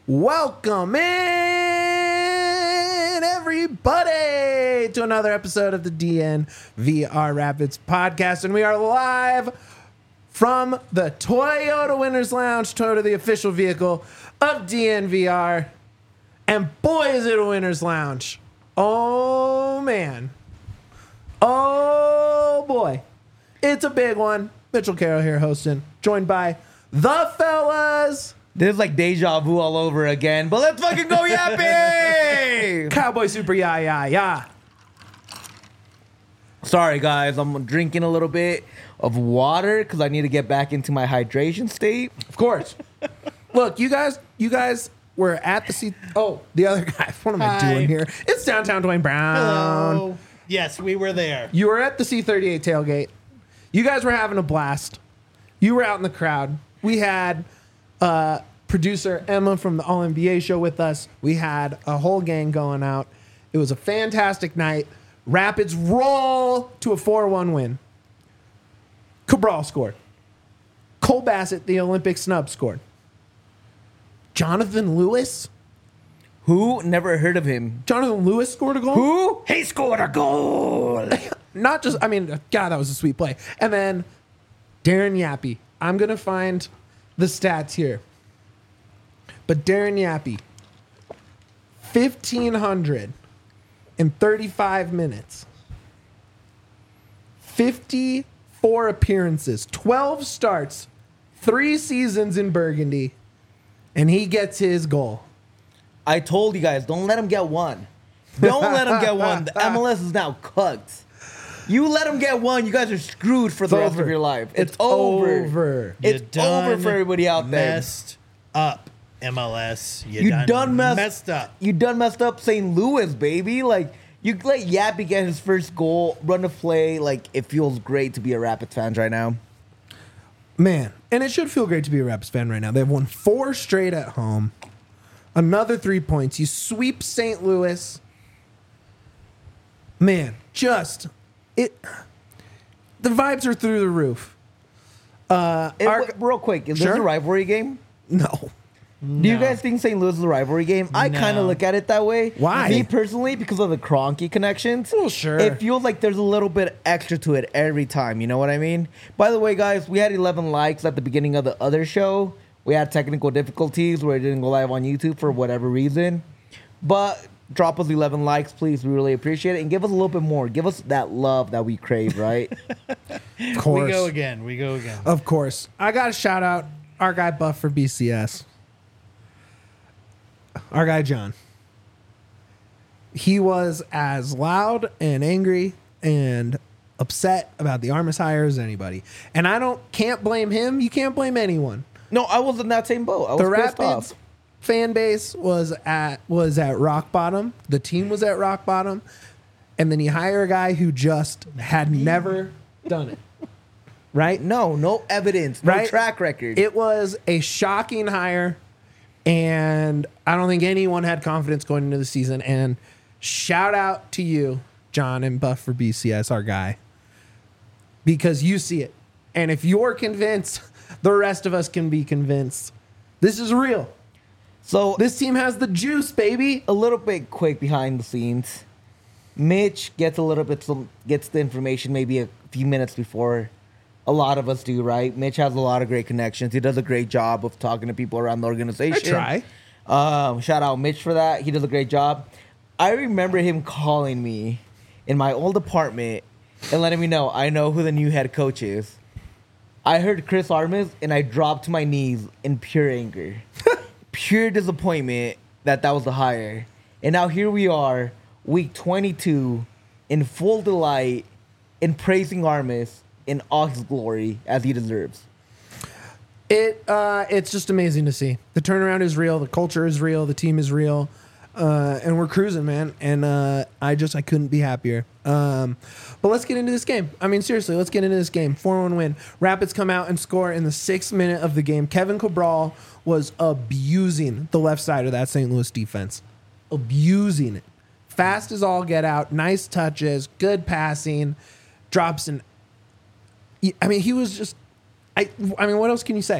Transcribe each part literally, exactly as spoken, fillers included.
Welcome in, everybody, to another episode of the D N V R Rapids podcast. And we are live from the Toyota Winners Lounge, Toyota, the official vehicle of D N V R. And boy, is it a Winners Lounge. Oh, man. Oh, boy. It's a big one. Mitchell Carroll here hosting, joined by the fellas. This is like deja vu all over again, but let's fucking go yapping! Cowboy Super Yeah Yeah Yeah. Sorry, guys, I'm drinking a little bit of water because I need to get back into my hydration state. Of course. Look, you guys, you guys were at the C. Oh, the other guy. What am I Hi. doing here? It's downtown Dwayne Brown. Hello. Yes, we were there. You were at the C thirty-eight tailgate. You guys were having a blast. You were out in the crowd. We had uh, producer Emma from the All N B A show with us. We had a whole gang going out. It was a fantastic night. Rapids roll to a four one win. Cabral scored. Cole Bassett, the Olympic snub, scored. Jonathan Lewis? Who? Never heard of him. Jonathan Lewis scored a goal? Who? He scored a goal! Not just, I mean, God, that was a sweet play. And then Darren Yappy. I'm going to find the stats here. But Darren Yappy, fifteen hundred thirty-five minutes, fifty-four appearances, twelve starts, three seasons in Burgundy, and he gets his goal. I told you guys, don't let him get one. Don't let him get one. The M L S is now cooked. You let him get one, you guys are screwed for the It's rest over. of your life. It's, It's over. over. It's You done over for everybody out there. Messed up, M L S. You, You done, done messed, messed up. You done messed up Saint Louis, baby. Like, you let Yappy get his first goal, run the play. Like, it feels great to be a Rapids fan right now. Man, and it should feel great to be a Rapids fan right now. They've won four straight at home. Another three points. You sweep Saint Louis. Man, just it. The vibes are through the roof. Uh, It- our- real quick, is Sure. this a rivalry game? no, Do you guys think Saint Louis is a rivalry game? I kind No. of look at it that way. Why? Me personally, because of the Cronky connections. Well, sure. It feels like there's a little bit extra to it every time. You know what I mean? By the way, guys, we had eleven likes at the beginning of the other show. We had technical difficulties where it didn't go live on YouTube for whatever reason. But drop us eleven likes, please. We really appreciate it. And give us a little bit more. Give us that love that we crave, right? of course, We go again. We go again. of course. I got to shout out our guy Buff for B C S. Our guy John. He was as loud and angry and upset about the Armis hire as anybody, and I don't can't blame him. You can't blame anyone. No, I was in that same boat. I was The pissed Rapids off. fan base was at was at rock bottom. The team was at rock bottom, and then you hire a guy who just had never done it. Right? No, no evidence, no Right? track record. It was a shocking hire, and I don't think anyone had confidence going into the season. And shout out to you, John and Buff for B C S, our guy, because you see it. And if you're convinced, the rest of us can be convinced. This is real. so This team has the juice, baby. a little bit quick behind the scenes. Mitch gets a little bit some gets the information maybe a few minutes before a lot of us do, right? Mitch has a lot of great connections. He does a great job of talking to people around the organization. I try. Um, shout out Mitch for that. He does a great job. I remember him calling me in my old apartment and letting me know I know who the new head coach is. I heard Chris Armis and I dropped to my knees in pure anger. Pure disappointment that that was the hire. And now here we are, week twenty-two, in full delight, in praising Armis in all his glory as he deserves. It uh, it's just amazing to see. The turnaround is real. The culture is real. The team is real. Uh, and we're cruising, man. And uh, I just I couldn't be happier. Um, but let's get into this game. I mean, seriously, let's get into this game. four one win. Rapids come out and score in the sixth minute of the game. Kevin Cabral was abusing the left side of that Saint Louis defense. Abusing it. Fast as all get out. Nice touches. Good passing. Drops an... I mean, he was just... I, I mean, what else can you say?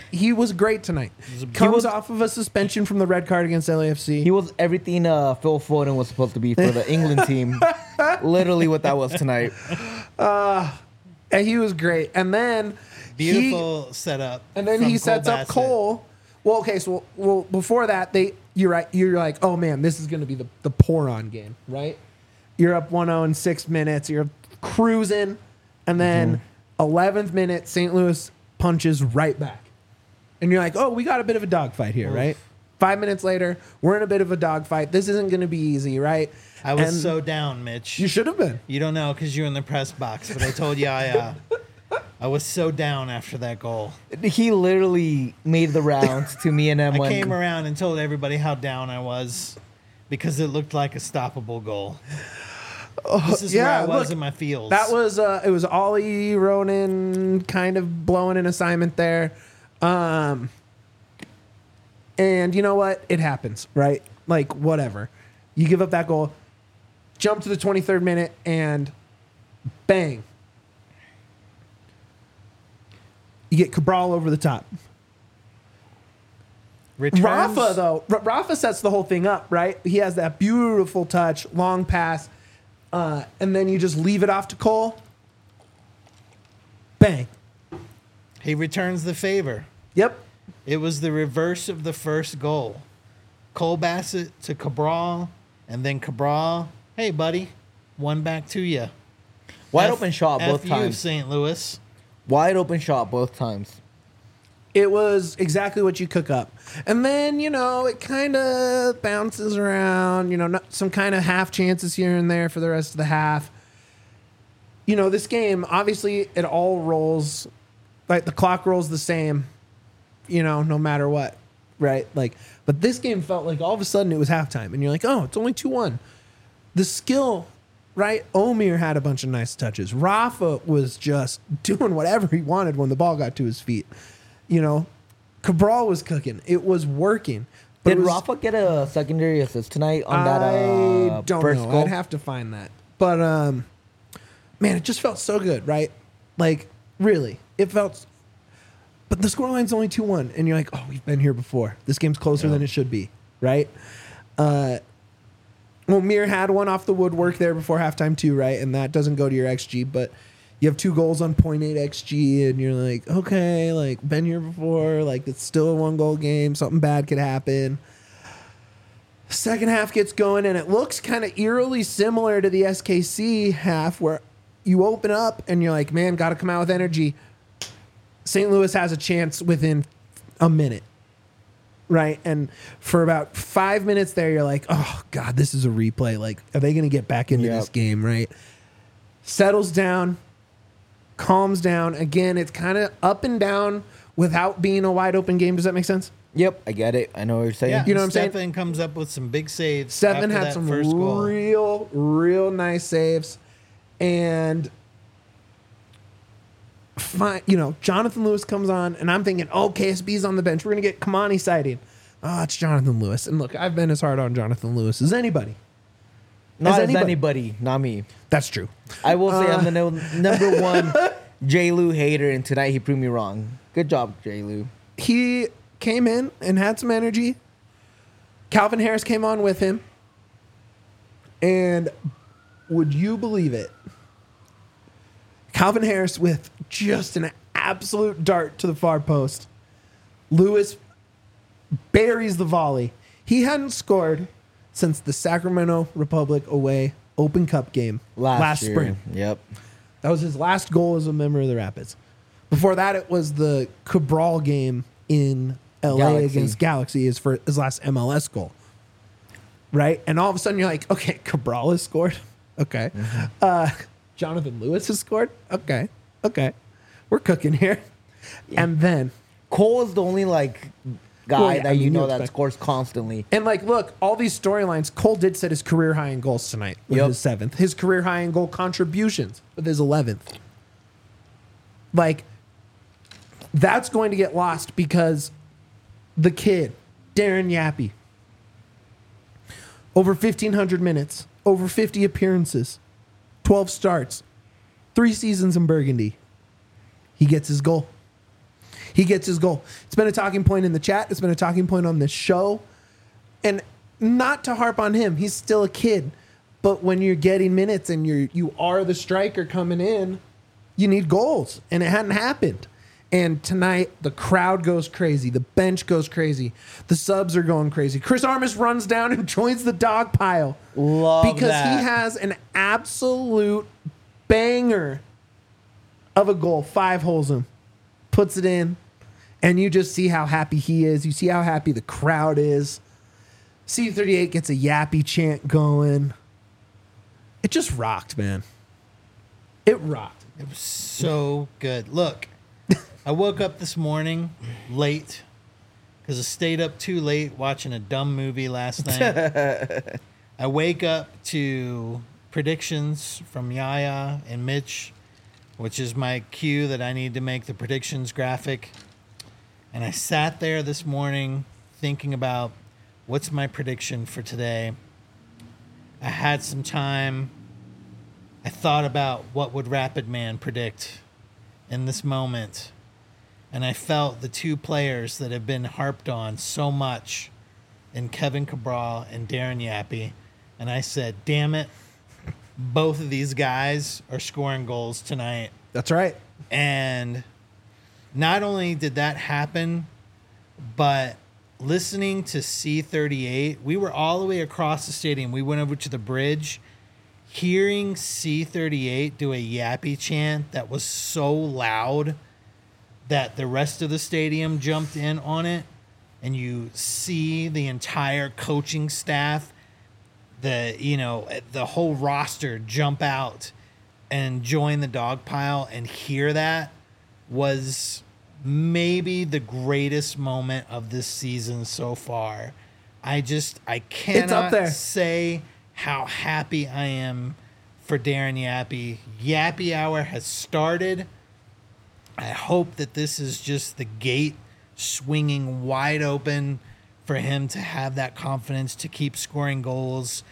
he was great tonight. was a- Comes was- off of a suspension from the red card against L A F C. He was everything uh, Phil Foden was supposed to be for the England team. Literally what that was tonight. and he was great. And then he, Beautiful setup. and then from he Cole sets up Bassett. Cole. Well, okay, so well before that, they you're right. You're like, oh man, this is going to be the the pour on game, right? You're up one oh in six minutes. You're cruising, and then eleventh minute, Saint Louis punches right back, and you're like, oh, we got a bit of a dogfight here, right? Five minutes later, we're in a bit of a dogfight. This isn't going to be easy, right? I was And so down, Mitch. you should have been. You don't know because you're in the press box, but I told you I uh, I was so down after that goal. He literally made the rounds to me and I Emma. came around and told everybody how down I was because it looked like a stoppable goal. This is yeah, where I was look, in my feels. That was uh, it was Ollie Ronan kind of blowing an assignment there. Um, and you know what? It happens, right? Like, whatever. You give up that goal, jump to the twenty-third minute, and bang. You get Cabral over the top. Returns, Rafa, though, R- Rafa sets the whole thing up, right? He has that beautiful touch, long pass, uh, and then you just leave it off to Cole. Bang. he returns the favor. Yep. It was the reverse of the first goal. Cole Bassett to Cabral, and then Cabral, hey, buddy, one back to you. Wide F- open shot both F you, times. Saint Louis. Wide open shot both times. It was exactly what you cook up. And then, you know, it kind of bounces around, you know, not, some kind of half chances here and there for the rest of the half. You know, this game, obviously, it all rolls, like the clock rolls the same, you know, no matter what, right? Like, but this game felt like all of a sudden it was halftime, and you're like, oh, it's only two one. The skill, right? Omir had a bunch of nice touches. Rafa was just doing whatever he wanted when the ball got to his feet. You know, Cabral was cooking. It was working. But Did it was, Rafa get a secondary assist tonight on I that uh, don't first know. goal? I'd have to find that. But um, man, it just felt so good, right? Like, really, it felt. But the scoreline's only two one, and you're like, oh, we've been here before. This game's closer Yeah. than it should be, right? Uh, well, Mir had one off the woodwork there before halftime too, right? And that doesn't go to your X G, but you have two goals on point eight X G, and you're like, okay, like, been here before. Like, it's still a one-goal game. Something bad could happen. Second half gets going, and it looks kind of eerily similar to the S K C half where you open up, and you're like, man, got to come out with energy. Saint Louis has a chance within a minute, right? And for about five minutes there, you're like, oh, God, this is a replay. Like, are they going to get back into Yep. this game, right? Settles down, calms down. Again, it's kind of up and down without being a wide open game. Does that make sense? Yep, I get it. I know what you're saying. Yeah, You know what I'm saying? Stefan comes up with some big saves. Seven after had that some first goal. real, real nice saves. And, fine, you know, Jonathan Lewis comes on, and I'm thinking, oh, K S B's on the bench. We're going to get Kamani sighting. Oh, it's Jonathan Lewis. And look, I've been as hard on Jonathan Lewis as anybody. Not As as anybody. anybody, not me. That's true. I will say Uh, I'm the no, number one J. Lou hater, and tonight he proved me wrong. Good job, J. Lou. He came in and had some energy. Calvin Harris came on with him. And would you believe it? Calvin Harris with just an absolute dart to the far post. Lewis buries the volley. He hadn't scored since the Sacramento Republic away Open Cup game Last, last year. spring. Yep. That was his last goal as a member of the Rapids. Before that, it was the Cabral game in L A Galaxy. against Galaxy, his, for, his last M L S goal. Right? And all of a sudden, you're like, okay, Cabral has scored. Okay. Mm-hmm. Uh, Jonathan Lewis has scored. Okay. Okay. We're cooking here. And then, Cole is the only like guy Well, yeah, that I you mean, know you that expect- scores constantly. and like, look, all these storylines, Cole did set his career high in goals tonight with Yep. his seventh. His career high in goal contributions with his eleventh. Like, that's going to get lost because the kid, Darren Yappy, over fifteen hundred minutes, over fifty appearances, twelve starts, three seasons in Burgundy. He gets his goal. He gets his goal. It's been a talking point in the chat. It's been a talking point on this show. And not to harp on him, he's still a kid. But when you're getting minutes and you're you are the striker coming in, you need goals. And it hadn't happened. And tonight, the crowd goes crazy. The bench goes crazy. The subs are going crazy. Chris Armas runs down and joins the dog pile. Love because that. he has an absolute banger of a goal. Five holes him. Puts it in. And you just see how happy he is. You see how happy the crowd is. C thirty-eight gets a yappy chant going. It just rocked, man. It rocked. It was so good. Look, I woke up this morning late because I stayed up too late watching a dumb movie last night. I wake up to predictions from Yaya and Mitch, which is my cue that I need to make the predictions graphic. And I sat there this morning thinking about what's my prediction for today. I had some time. I thought about what would Rapid Man predict in this moment. And I felt the two players that have been harped on so much in Kevin Cabral and Darren Yappy. And I said, damn it, both of these guys are scoring goals tonight. That's right. And not only did that happen, but listening to C thirty-eight, we were all the way across the stadium. We went over to the bridge. Hearing C thirty-eight do a Yappy chant that was so loud that the rest of the stadium jumped in on it, and you see the entire coaching staff, the you know the whole roster jump out and join the dog pile and hear that was maybe the greatest moment of this season so far. I just I cannot there. say how happy I am for Darren Yappy. Yappy Hour has started. I hope that this is just the gate swinging wide open for him to have that confidence to keep scoring goals.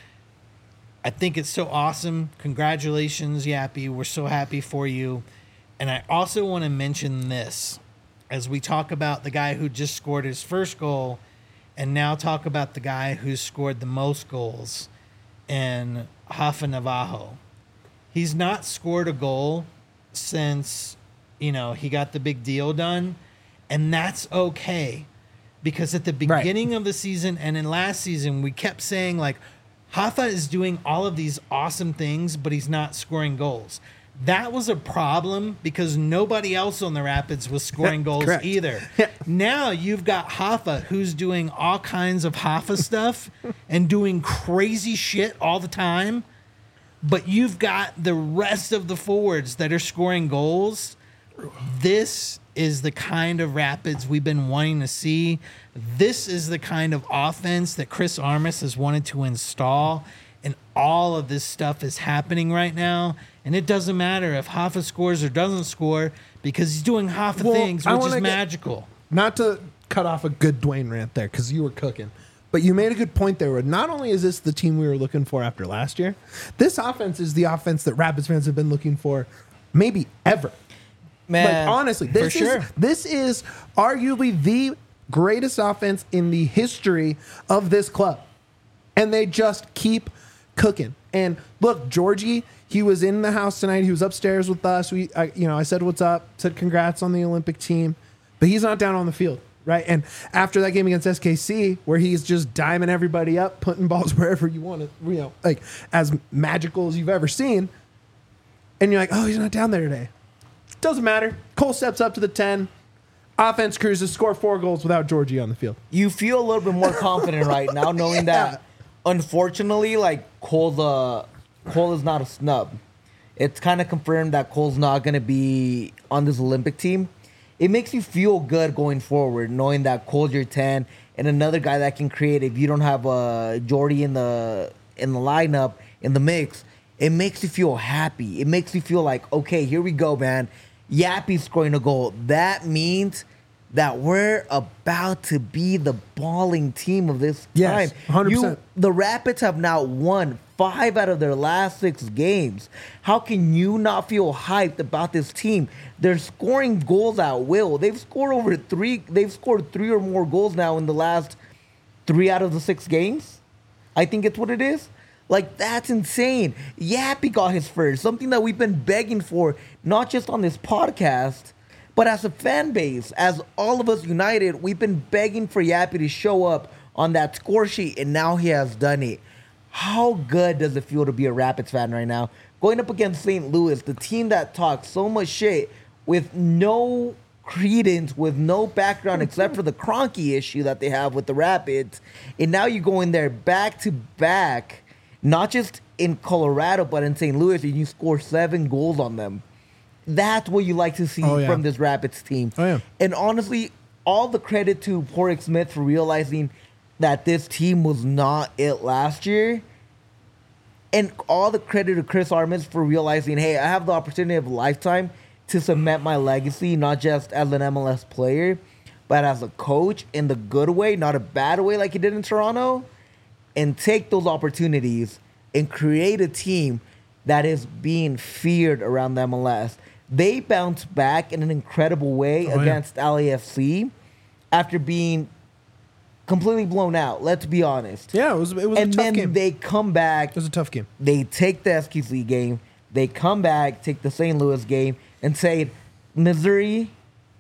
I think it's so awesome. Congratulations, Yappy. We're so happy for you. And I also want to mention this as we talk about the guy who just scored his first goal and now talk about the guy who scored the most goals in Rafa Navajo. He's not scored a goal since, you know, he got the big deal done, and that's okay. Because at the beginning right. of the season and in last season, we kept saying, like, Rafa is doing all of these awesome things, but he's not scoring goals. That was a problem because nobody else on the Rapids was scoring goals Correct. either. Now you've got Rafa who's doing all kinds of Rafa stuff and doing crazy shit all the time. But you've got the rest of the forwards that are scoring goals. This is the kind of Rapids we've been wanting to see. This is the kind of offense that Chris Armas has wanted to install. And all of this stuff is happening right now. And it doesn't matter if Rafa scores or doesn't score because he's doing Rafa Well, things, I which wanna is get- magical. Not to cut off a good Dwayne rant there because you were cooking, but you made a good point there. Where not only is this the team we were looking for after last year, this offense is the offense that Rapids fans have been looking for maybe ever. Man, Like honestly, this for is sure. this is arguably the greatest offense in the history of this club, and they just keep cooking. And look, Georgie, he was in the house tonight. He was upstairs with us. We, I, you know, I said what's up, said congrats on the Olympic team, but he's not down on the field, right? And after that game against S K C, where he's just diming everybody up, putting balls wherever you want it, you know, like as magical as you've ever seen, and you're like, oh, he's not down there today. Doesn't matter. Cole steps up to the ten. Offense cruises, score four goals without Georgie on the field. you feel a little bit more confident right now, knowing Yeah. that, unfortunately, like Cole, uh, Cole is not a snub. It's kind of confirmed that Cole's not going to be on this Olympic team. It makes you feel good going forward, knowing that Cole's your ten and another guy that can create. If you don't have uh, Jordy in the in the lineup in the mix, it makes you feel happy. It makes you feel like, okay, here we go, man. Yappy's scoring a goal. That means that we're about to be the balling team of this Yes, time. one hundred percent. You, the Rapids have now won five out of their last six games. How can you not feel hyped about this team? They're scoring goals at will. They've scored over three. They've scored three or more goals now in the last three out of the six games. I think it's what it is. Like, that's insane. Yappy got his first, something that we've been begging for, not just on this podcast, but as a fan base, as all of us united, we've been begging for Yappy to show up on that score sheet, and now he has done it. How good does it feel to be a Rapids fan right now? Going up against Saint Louis, the team that talks so much shit with no credence, with no background except for the Kroenke issue that they have with the Rapids, and now you go in there back to back, not just in Colorado, but in Saint Louis, and you score seven goals on them. That's what you like to see Oh, yeah. from this Rapids team. Oh, yeah. And honestly, all the credit to Porrick Smith for realizing that this team was not it last year. And all the credit to Chris Armas for realizing, hey, I have the opportunity of a lifetime to cement my legacy, not just as an M L S player, but as a coach in the good way, not a bad way like he did in Toronto. And take those opportunities and create a team that is being feared around the M L S. They bounced back in an incredible way Oh, yeah. against L A F C after being completely blown out. Let's be honest. Yeah, it was it was And a tough then game. they come back. It was a tough game. They take the S K C game. They come back, take the Saint Louis game, and say, Missouri,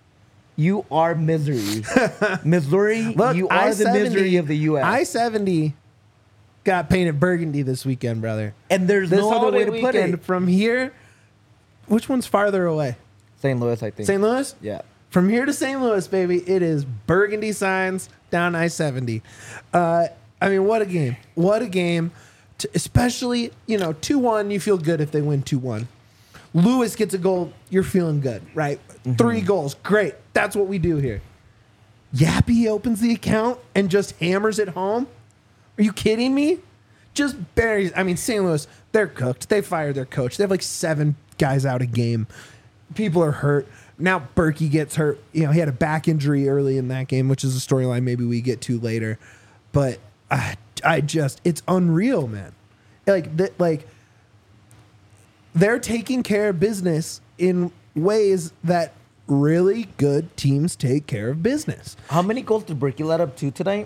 you are misery. Missouri, Look, you are the misery of the U S. I seventy got painted burgundy this weekend, brother. and there's This no other way holiday to put weekend it. from here. Which one's farther away? Saint Louis, I think. Saint Louis? Yeah. From here to Saint Louis, baby, it is burgundy signs down I seventy. Uh, I mean, what a game. What a game. To, especially, you know, two one, you feel good if they win two one. Lewis gets a goal, you're feeling good, right? Mm-hmm. Three goals, great. That's what we do here. Yappy opens the account and just hammers it home. Are you kidding me? Just buries. I mean, Saint Louis, they're cooked. They fired their coach. They have like seven guys out a game. People are hurt. Now Berkey gets hurt. You know, he had a back injury early in that game, which is a storyline maybe we get to later. But I, I just, it's unreal, man. Like, th- like they're taking care of business in ways that really good teams take care of business. How many goals did Berkey let up to tonight?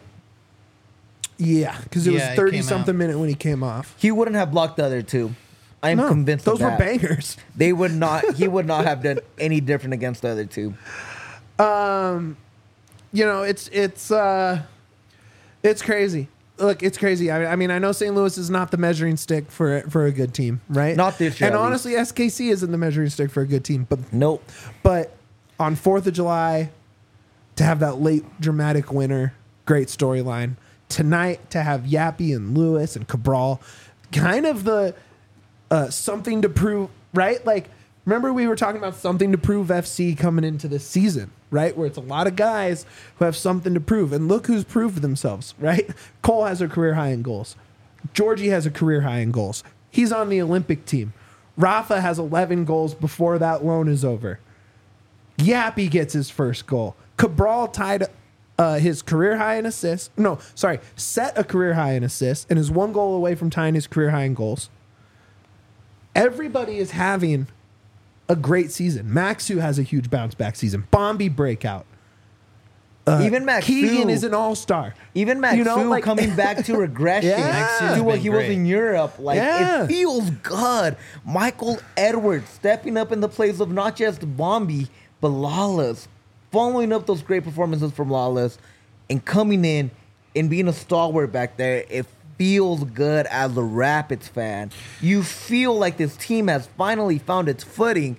Yeah, because it Yeah, was it thirty came something out. minute when he came off. He wouldn't have blocked the other two. I'm No, convinced those of were that. bangers. They would not. He would not have done any different against the other two. Um, you know, it's it's uh, it's crazy. Look, it's crazy. I, I mean, I know Saint Louis is not the measuring stick for for a good team, right? Not this year, And at least. honestly, S K C isn't the measuring stick for a good team. But Nope. but on Fourth of July, to have that late dramatic winner, great storyline. Tonight to have Yappy and Lewis and Cabral, kind of the uh, something to prove, right? Like, remember we were talking about something to prove F C coming into this season, right? Where it's a lot of guys who have something to prove. And look who's proved themselves, right? Cole has a career high in goals. Georgie has a career high in goals. He's on the Olympic team. Rafa has eleven goals before that loan is over. Yappy gets his first goal. Cabral tied uh, his career high in assists. No, sorry, set a career high in assists and is one goal away from tying his career high in goals. Everybody is having a great season. Maxu has a huge bounce back season. Bombi breakout. Uh, Even Max Keegan Fu- is an all star. Even Max You know, Fu like- coming back to regression Yeah. Max Fu's to what been he was great. in Europe. Like, Yeah. it feels good. Michael Edwards stepping up in the place of not just Bombi, but Lawless. Following up those great performances from Lawless and coming in and being a stalwart back there. It feels good as a Rapids fan. You feel like this team has finally found its footing.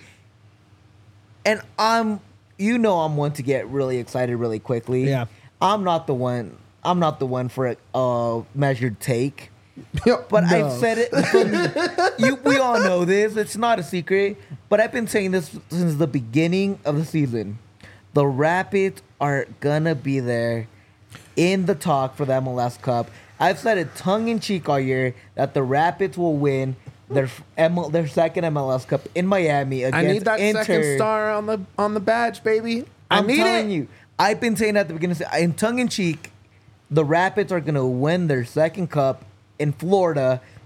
And I'm, you know, I'm one to get really excited really quickly. Yeah. I'm not the one. I'm not the one for a uh, measured take. Yep, But no. I've said it. From, you, we all know this. It's not a secret. But I've been saying this since the beginning of the season. The Rapids are gonna be there in the talk for the M L S Cup. I've said it tongue in cheek all year that the Rapids will win their M L, their second M L S Cup in Miami against I need that Inter. second star on the on the badge, baby. I I'm need telling it. you. I've been saying at the beginning, in tongue in cheek, the Rapids are going to win their second cup in Florida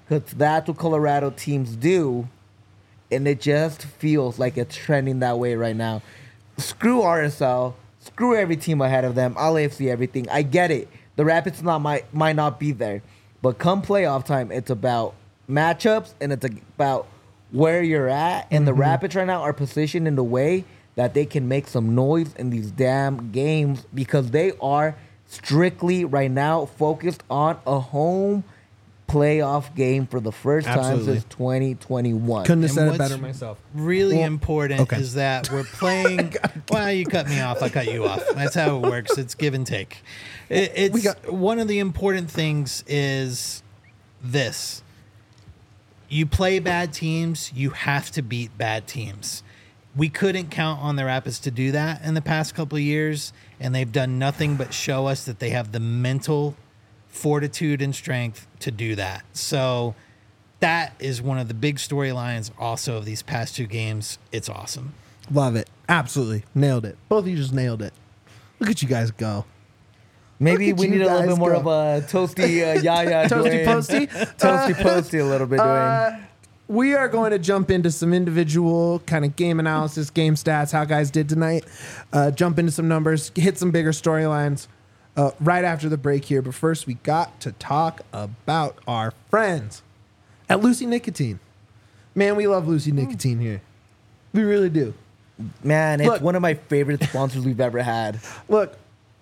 Because that's what Colorado teams do. And it just feels like it's trending that way right now. Screw R S L. Screw every team ahead of them. All A F C, everything. I get it. The Rapids not might, might not be there. But come playoff time, it's about matchups and it's about where you're at. And mm-hmm. the Rapids right now are positioned in the way that they can make some noise in these damn games because they are strictly right now focused on a home playoff game for the first Absolutely. time since twenty twenty-one. Couldn't have And said it what's better myself. Really Well, important okay. is that we're playing. Well, you cut me off. I cut you off. That's how it works. It's give and take. It, it's We got- one of the important things is this. You play bad teams. You have to beat bad teams. We couldn't count on the Rapids to do that in the past couple of years, and they've done nothing but show us that they have the mental fortitude and strength to do that. So that is one of the big storylines also of these past two games. It's awesome. Love it. Absolutely. Nailed it. Both of you just nailed it. Look at you guys go. Maybe Look at we you need a little guys bit more go. of a toasty uh, Yaya. Toasty Dwayne. posty. Toasty posty a little bit, Dwayne. Uh, we are going to jump into some individual kind of game analysis, game stats, how guys did tonight. Uh, jump into some numbers, hit some bigger storylines uh, right after the break here. But first, we got to talk about our friends at Lucy Nicotine. Man, we love Lucy Nicotine here. We really do. Man, it's Look. one of my favorite sponsors we've ever had. Look,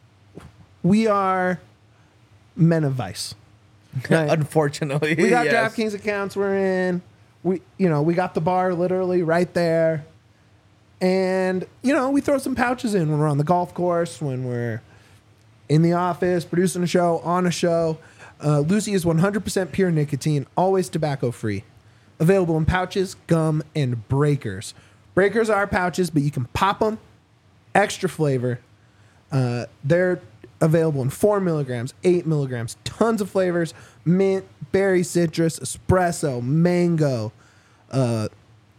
we are men of vice. Right? Unfortunately. We got yes. DraftKings accounts we're in. We, you know, we got the bar literally right there. And, you know, we throw some pouches in when we're on the golf course, when we're in the office, producing a show, on a show. Uh, Lucy is one hundred percent pure nicotine, always tobacco free. Available in pouches, gum, and breakers. Breakers are pouches, but you can pop them. Extra flavor. Uh, they're available in four milligrams, eight milligrams, tons of flavors: mint, berry, citrus, espresso, mango. Uh,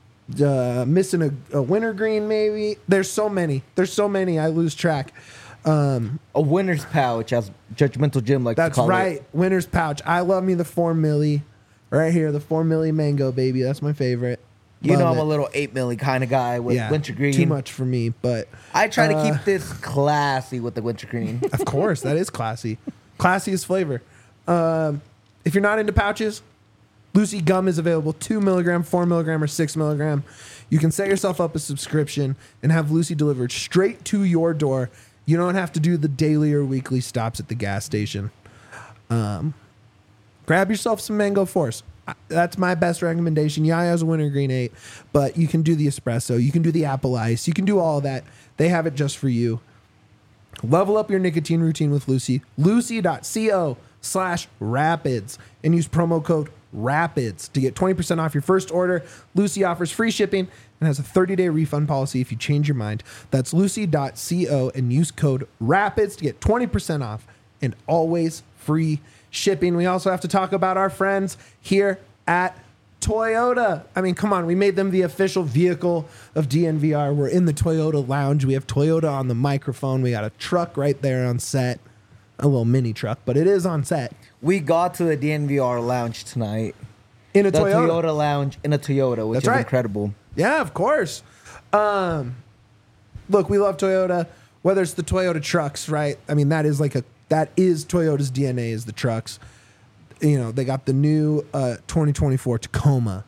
uh, missing a, a wintergreen, maybe. There's so many. There's so many. I lose track. Um, A winner's pouch, as Judgmental Jim likes to that's call right. it. Winter's pouch. I love me the four milli. Right here, the four milli mango, baby. That's my favorite. You Love know I'm it. a little eight milli kind of guy with yeah, wintergreen. too much for me, but I try to uh, keep this classy with the wintergreen. Of course, that is classy. Classiest flavor. Um, if you're not into pouches, Lucy gum is available two milligram, four milligram, or six milligram. You can set yourself up a subscription and have Lucy delivered straight to your door. You don't have to do the daily or weekly stops at the gas station. Um, grab yourself some Mango Force. I- That's my best recommendation. Yaya's a wintergreen eight, but you can do the espresso. You can do the apple ice. You can do all of that. They have it just for you. Level up your nicotine routine with Lucy. Lucy.co slash rapids and use promo code RAPIDS to get twenty percent off your first order. Lucy offers free shipping and has a thirty-day refund policy if you change your mind. That's lucy.co and use code RAPIDS to get twenty percent off and always free shipping. We also have to talk about our friends here at Toyota. I mean, come on. We made them the official vehicle of D N V R. We're in the Toyota lounge. We have Toyota on the microphone. We got a truck right there on set. A little mini truck, but it is on set. We got to the D N V R lounge tonight. In a The Toyota. Toyota lounge in a Toyota, which That's is right. incredible. Yeah, of course. Um, look, we love Toyota. Whether it's the Toyota trucks, right? I mean, that is like a that is Toyota's D N A is the trucks. You know, they got the new uh, twenty twenty-four Tacoma.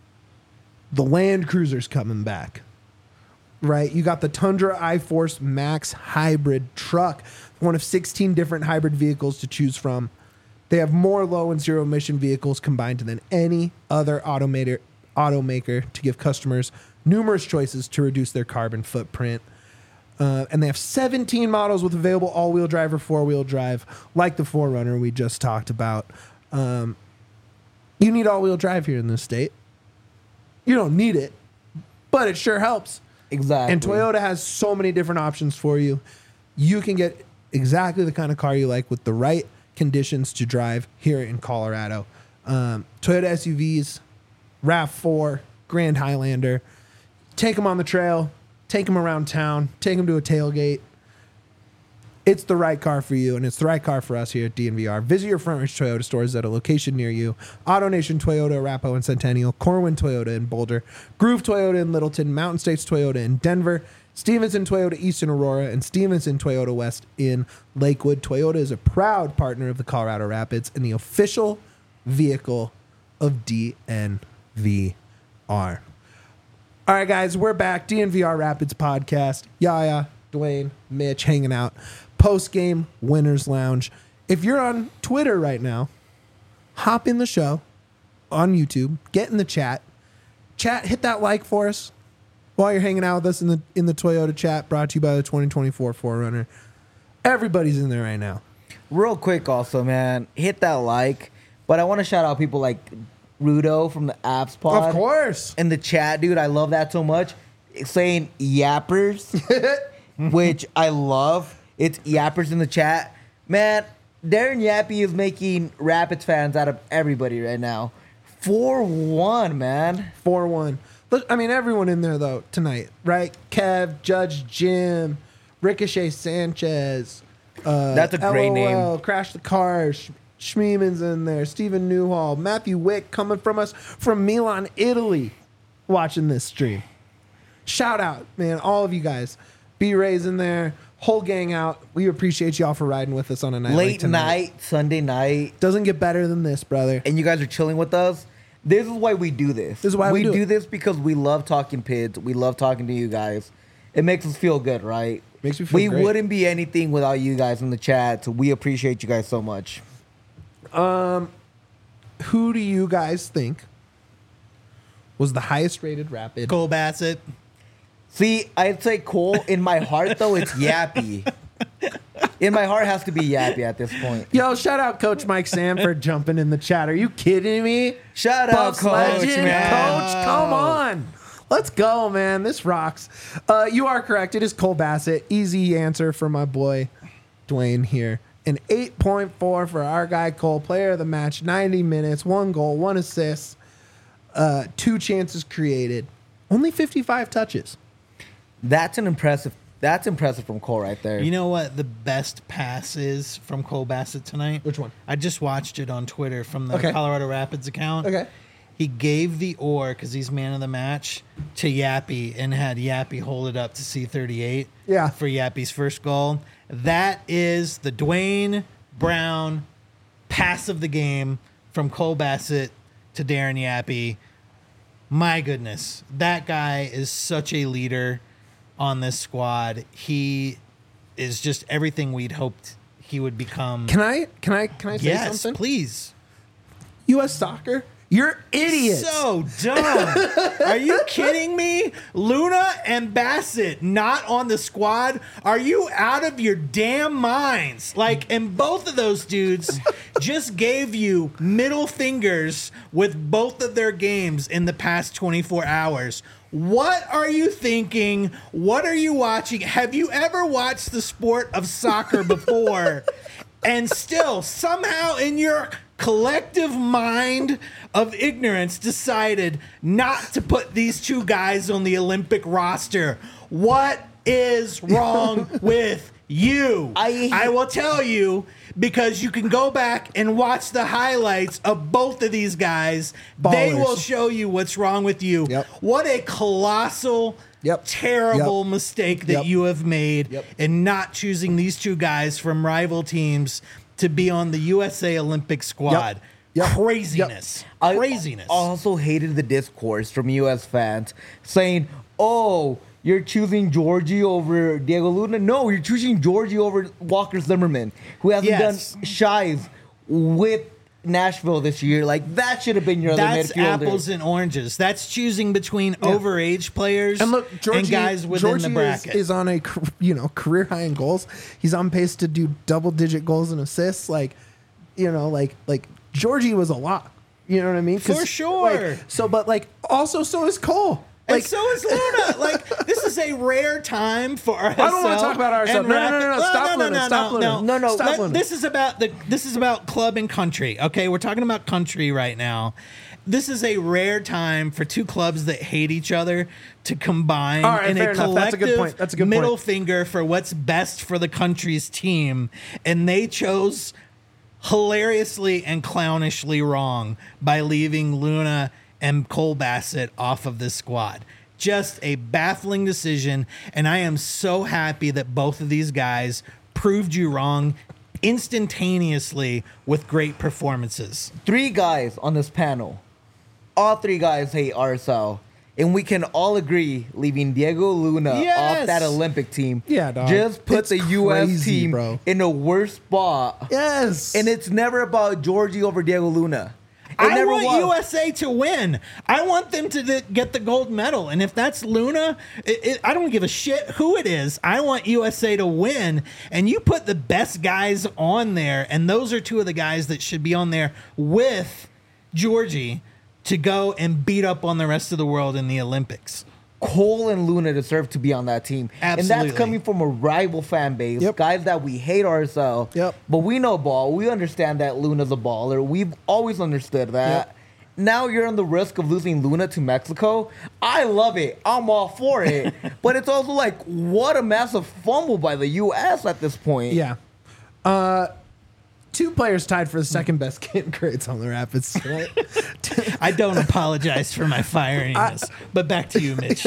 The Land Cruiser's coming back, right? You got the Tundra iForce Max hybrid truck, one of sixteen different hybrid vehicles to choose from. They have more low and zero emission vehicles combined than any other automator, automaker to give customers numerous choices to reduce their carbon footprint. Uh, and they have seventeen models with available all-wheel drive or four-wheel drive, like the four runner we just talked about. Um, you need all-wheel drive here in this state. You don't need it, but it sure helps. Exactly. And Toyota has so many different options for you. You can get exactly the kind of car you like with the right conditions to drive here in Colorado. Um, Toyota S U Vs, RAV four, Grand Highlander. Take them on the trail. Take them around town. Take them to a tailgate. it's the right car for you, and it's the right car for us here at D N V R. Visit your Front Ridge Toyota stores at a location near you. AutoNation Toyota, Arapahoe and Centennial, Corwin Toyota in Boulder, Groove Toyota in Littleton, Mountain States Toyota in Denver, Stevenson Toyota East in Aurora, and Stevenson Toyota West in Lakewood. Toyota is a proud partner of the Colorado Rapids and the official vehicle of D N V R. All right, guys, we're back. D N V R Rapids podcast. Yaya, Dwayne, Mitch hanging out. Post-game Winners Lounge. If you're on Twitter right now, hop in the show on YouTube. Get in the chat. Chat, hit that like for us while you're hanging out with us in the in the Toyota chat, brought to you by the twenty twenty-four four runner. Everybody's in there right now. Real quick also, man, hit that like. But I want to shout out people like Rudo from the Apps Pod. Of course. In the chat, dude. I love that so much. It's saying yappers, which I love. It's yappers in the chat. Man, Darren Yappy is making Rapids fans out of everybody right now. four one, man. four one. Look, I mean, everyone in there, though, tonight, right? Kev, Judge Jim, Ricochet Sanchez. Uh, That's a great LOL, name. Crash the Cars. Schmeeman's in there. Stephen Newhall. Matthew Wick coming from us from Milan, Italy, watching this stream. Shout out, man, all of you guys. B-Ray's in there. Whole gang out. We appreciate y'all for riding with us on a night Late like tonight. night, Sunday night. Doesn't get better than this, brother. And you guys are chilling with us. This is why we do this. This is why we do do it. this because we love talking P I Ds. We love talking to you guys. It makes us feel good, right? Makes me feel We great. wouldn't be anything without you guys in the chat. So we appreciate you guys so much. Who do you guys think was the highest rated Rapid? Cole Bassett. See, I'd say Cole. In my heart, though, it's Yappy. In my heart, it has to be Yappy at this point. Yo, shout out Coach Mike Sanford jumping in the chat. Are you kidding me? Shout out, Buffs Coach, legend, man. Coach, come on. Let's go, man. This rocks. Uh, you are correct. It is Cole Bassett. Easy answer for my boy Dwayne here. An eight point four for our guy Cole, player of the match, ninety minutes, one goal, one assist, uh, two chances created, only fifty-five touches. That's an impressive. That's impressive from Cole right there. You know what the best pass is from Cole Bassett tonight? Which one? I just watched it on Twitter from the Okay. Colorado Rapids account. Okay. He gave the oar, because he's man of the match, to Yappy and had Yappy hold it up to C thirty-eight Yeah. for Yappy's first goal. That is the Dwayne Brown pass of the game from Cole Bassett to Darren Yappy. My goodness. That guy is such a leader on this squad. He is just everything we'd hoped he would become. Can I can I can I say yes, something? please. U S Soccer, you're idiots. So dumb. Are you kidding me? Luna and Bassett not on the squad? Are you out of your damn minds? Like, and both of those dudes just gave you middle fingers with both of their games in the past twenty-four hours. What are you thinking? What are you watching? Have you ever watched the sport of soccer before? And still, somehow in your collective mind of ignorance, decided not to put these two guys on the Olympic roster. What is wrong with you? I- I will tell you, because you can go back and watch the highlights of both of these guys. They Ballers. will show you what's wrong with you. Yep. What a colossal, Yep. terrible Yep. mistake that Yep. you have made Yep. in not choosing these two guys from rival teams to be on the U S A Olympic squad. Yep. Craziness. I Craziness. also hated the discourse from U S fans saying, "Oh, you're choosing Georgie over Diego Luna." No, you're choosing Georgie over Walker Zimmerman, who hasn't Yes. done shies with Nashville this year. Like, that should have been your That's other midfielder. apples and oranges. That's choosing between overage players And look, Georgie, and guys within Georgie the bracket. Is, is on a car- you know career high in goals. He's on pace to do double digit goals and assists. Like, you know, like like Georgie was a lot. You know what I mean? 'Cause, For sure. like, so, but like also, so is Cole. and Like, so is Luna. Like, this is a rare time for R S L. I don't wanna talk about R S L. and No, no, no, Rapid- no, no. Stop Luna. Stop Luna. No, No, no. Stop Let- Luna. This is about the. This is about club and country. Okay, we're talking about country right now. This is a rare time for two clubs that hate each other to combine All right, in fair a enough. That's a collective good point. That's a good middle point. finger for what's best for the country's team, and they chose hilariously and clownishly wrong by leaving Luna and Cole Bassett off of this squad. Just a baffling decision, and I am so happy that both of these guys proved you wrong instantaneously with great performances. Three guys on this panel. All three guys hate R S L. And we can all agree leaving Diego Luna Yes. off that Olympic team Yeah, dog. just put It's the U S crazy, team bro. in a worse spot. Yes. And it's never about Georgie over Diego Luna. It I never want was. U S A to win. I want them to th- get the gold medal. And if that's Luna, it, it, I don't give a shit who it is. I want U S A to win. And you put the best guys on there, and those are two of the guys that should be on there with Georgie to go and beat up on the rest of the world in the Olympics. Cole and Luna deserve to be on that team. And Absolutely. that's coming from a rival fan base. Yep. Guys that we hate R S L. Yep. But we know ball. We understand that Luna's a baller. We've always understood that. Yep. Now you're on the risk of losing Luna to Mexico. I love it. I'm all for it. But it's also like, what a massive fumble by the U S at this point. Yeah. Uh, two players tied for the second best kid grades on the Rapids tonight. I don't apologize for my firiness. But back to you, Mitch.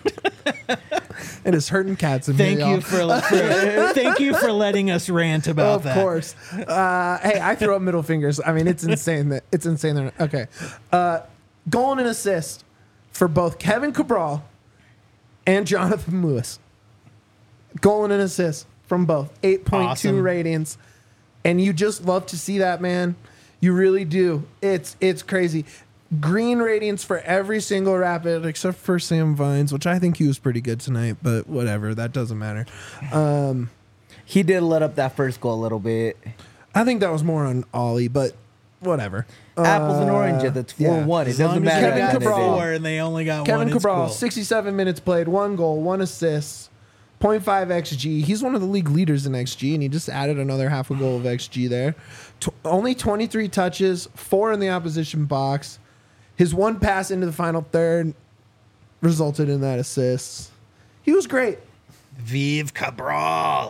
And it's hurting cats in Thank here, you y'all. for, for thank you for letting us rant about Of that. course. Uh, hey, I throw up middle fingers. I mean, it's insane that it's insane. That, okay. Uh, goal and an assist for both Kevin Cabral and Jonathan Lewis. Goal and an assist from both. eight point two Awesome. ratings. And you just love to see that, man. You really do. It's it's crazy. Green ratings for every single Rapid except for Sam Vines, which I think he was pretty good tonight, but whatever. That doesn't matter. Um, He did let up that first goal a little bit. I think that was more on Ollie, but whatever. Apples and Uh, oranges. It's four one. It As long doesn't as matter. you Kevin at got the end of the Cabral. day. four and they only got Kevin one, it's Cabral, cool. sixty-seven minutes played, one goal, one assist, point five X G. He's one of the league leaders in X G, and he just added another half a goal of X G there. Tw- only twenty-three touches, four in the opposition box. His one pass into the final third resulted in that assist. He was great. Vive Cabral.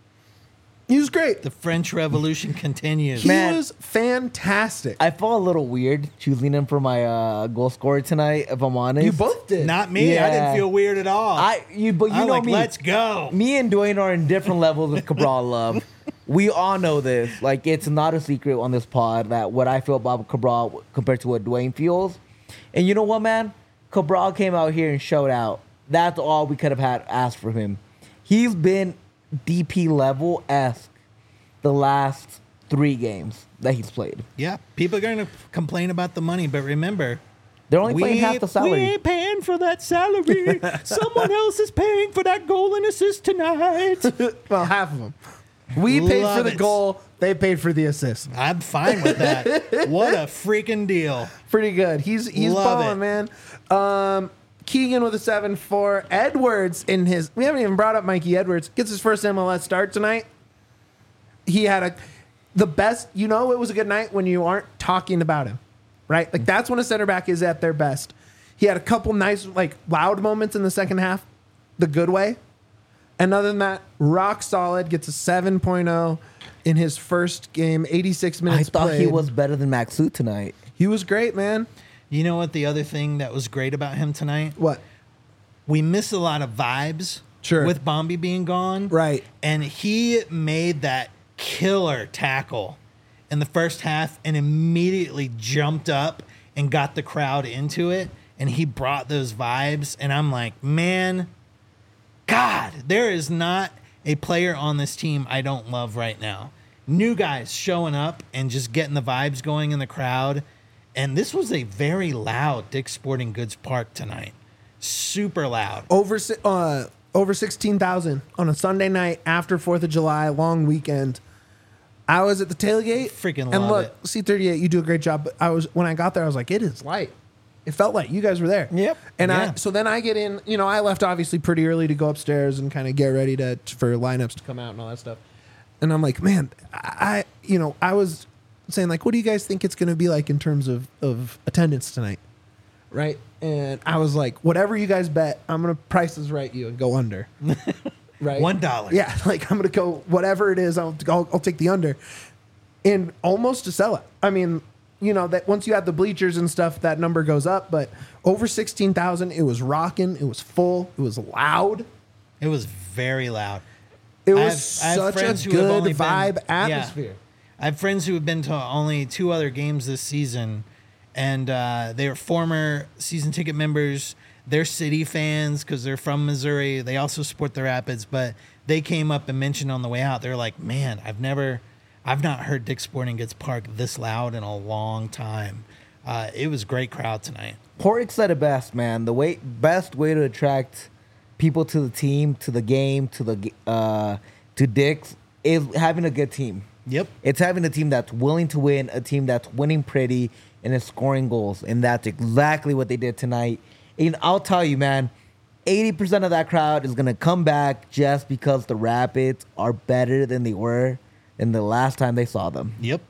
He was great. The French Revolution continues. He Man. was fantastic. I felt a little weird choosing him for my uh, goal scorer tonight, if I'm honest. you both did. Not me. I Yeah. didn't feel weird at all. I you but you I'm know like, me. let's go. Me and Dwayne are in different levels of Cabral love. We all know this. Like, it's not a secret on this pod that what I feel about Cabral compared to what Dwayne feels. And you know what, man? Cabral came out here and showed out. That's all we could have had asked for him. He's been D P level esque the last three games that he's played. Yeah, people are going to complain about the money, but remember, They're only paying half the we salary. ain't paying for that salary. Someone else is paying for that goal and assist tonight. Well, half of them. We paid Love for the it. goal. They paid for the assist. I'm fine with that. What a freaking deal. Pretty good. He's he's Love balling, man. Um, Keegan with a seven four. Edwards in his. We haven't even brought up Mikey Edwards. Gets his first M L S start tonight. He had a the best. You know, it was a good night when you aren't talking about him, right? Like that's when a center back is at their best. He had a couple nice, like loud moments in the second half, the good way. And other than that, rock solid. Gets a seven point oh in his first game. eighty-six I minutes. thought he played. was better than Maxu tonight. He was great, man. You know what the other thing that was great about him tonight? What? We miss a lot of vibes Sure. with Bombi being gone. Right. And he made that killer tackle in the first half and immediately jumped up and got the crowd into it. And he brought those vibes. And I'm like, man, God, there is not a player on this team I don't love right now. New guys showing up and just getting the vibes going in the crowd. And this was a very loud Dick's Sporting Goods Park tonight. Super loud. Over si- uh, over sixteen thousand on a Sunday night after fourth of July, long weekend. I was at the tailgate. Freaking and love look, it. C thirty-eight, you do a great job. But I was when I got there, I was like, it is light. It felt like you guys were there. Yep. And Yeah. I so then I get in. You know, I left obviously pretty early to go upstairs and kind of get ready to for lineups to come out and all that stuff. And I'm like, man, I you know I was saying like, what do you guys think it's going to be like in terms of of attendance tonight, right? And I was like, whatever you guys bet, I'm gonna price is right you and go under. Right. One dollar. Yeah, like I'm gonna go whatever it is. I'll I'll, I'll take the under, and almost to sell it. I mean, you know that once you have the bleachers and stuff, that number goes up. But over sixteen thousand, it was rocking. It was full. It was loud. It was very loud. It I was have- I have such friends a who have good only been- vibe yeah. atmosphere. I have friends who have been to only two other games this season, and uh, they are former season ticket members. They're City fans because they're from Missouri. They also support the Rapids, but they came up and mentioned on the way out, they're like, man, I've never, I've not heard Dick's Sporting Goods Park this loud in a long time. Uh, it was a great crowd tonight. Porrick said it best, man. The way best way to attract people to the team, to the game, to the uh, to Dick's is having a good team. Yep. It's having a team that's willing to win, a team that's winning pretty, and is scoring goals. And that's exactly what they did tonight. And I'll tell you, man, eighty percent of that crowd is going to come back just because the Rapids are better than they were in the last time they saw them. Yep.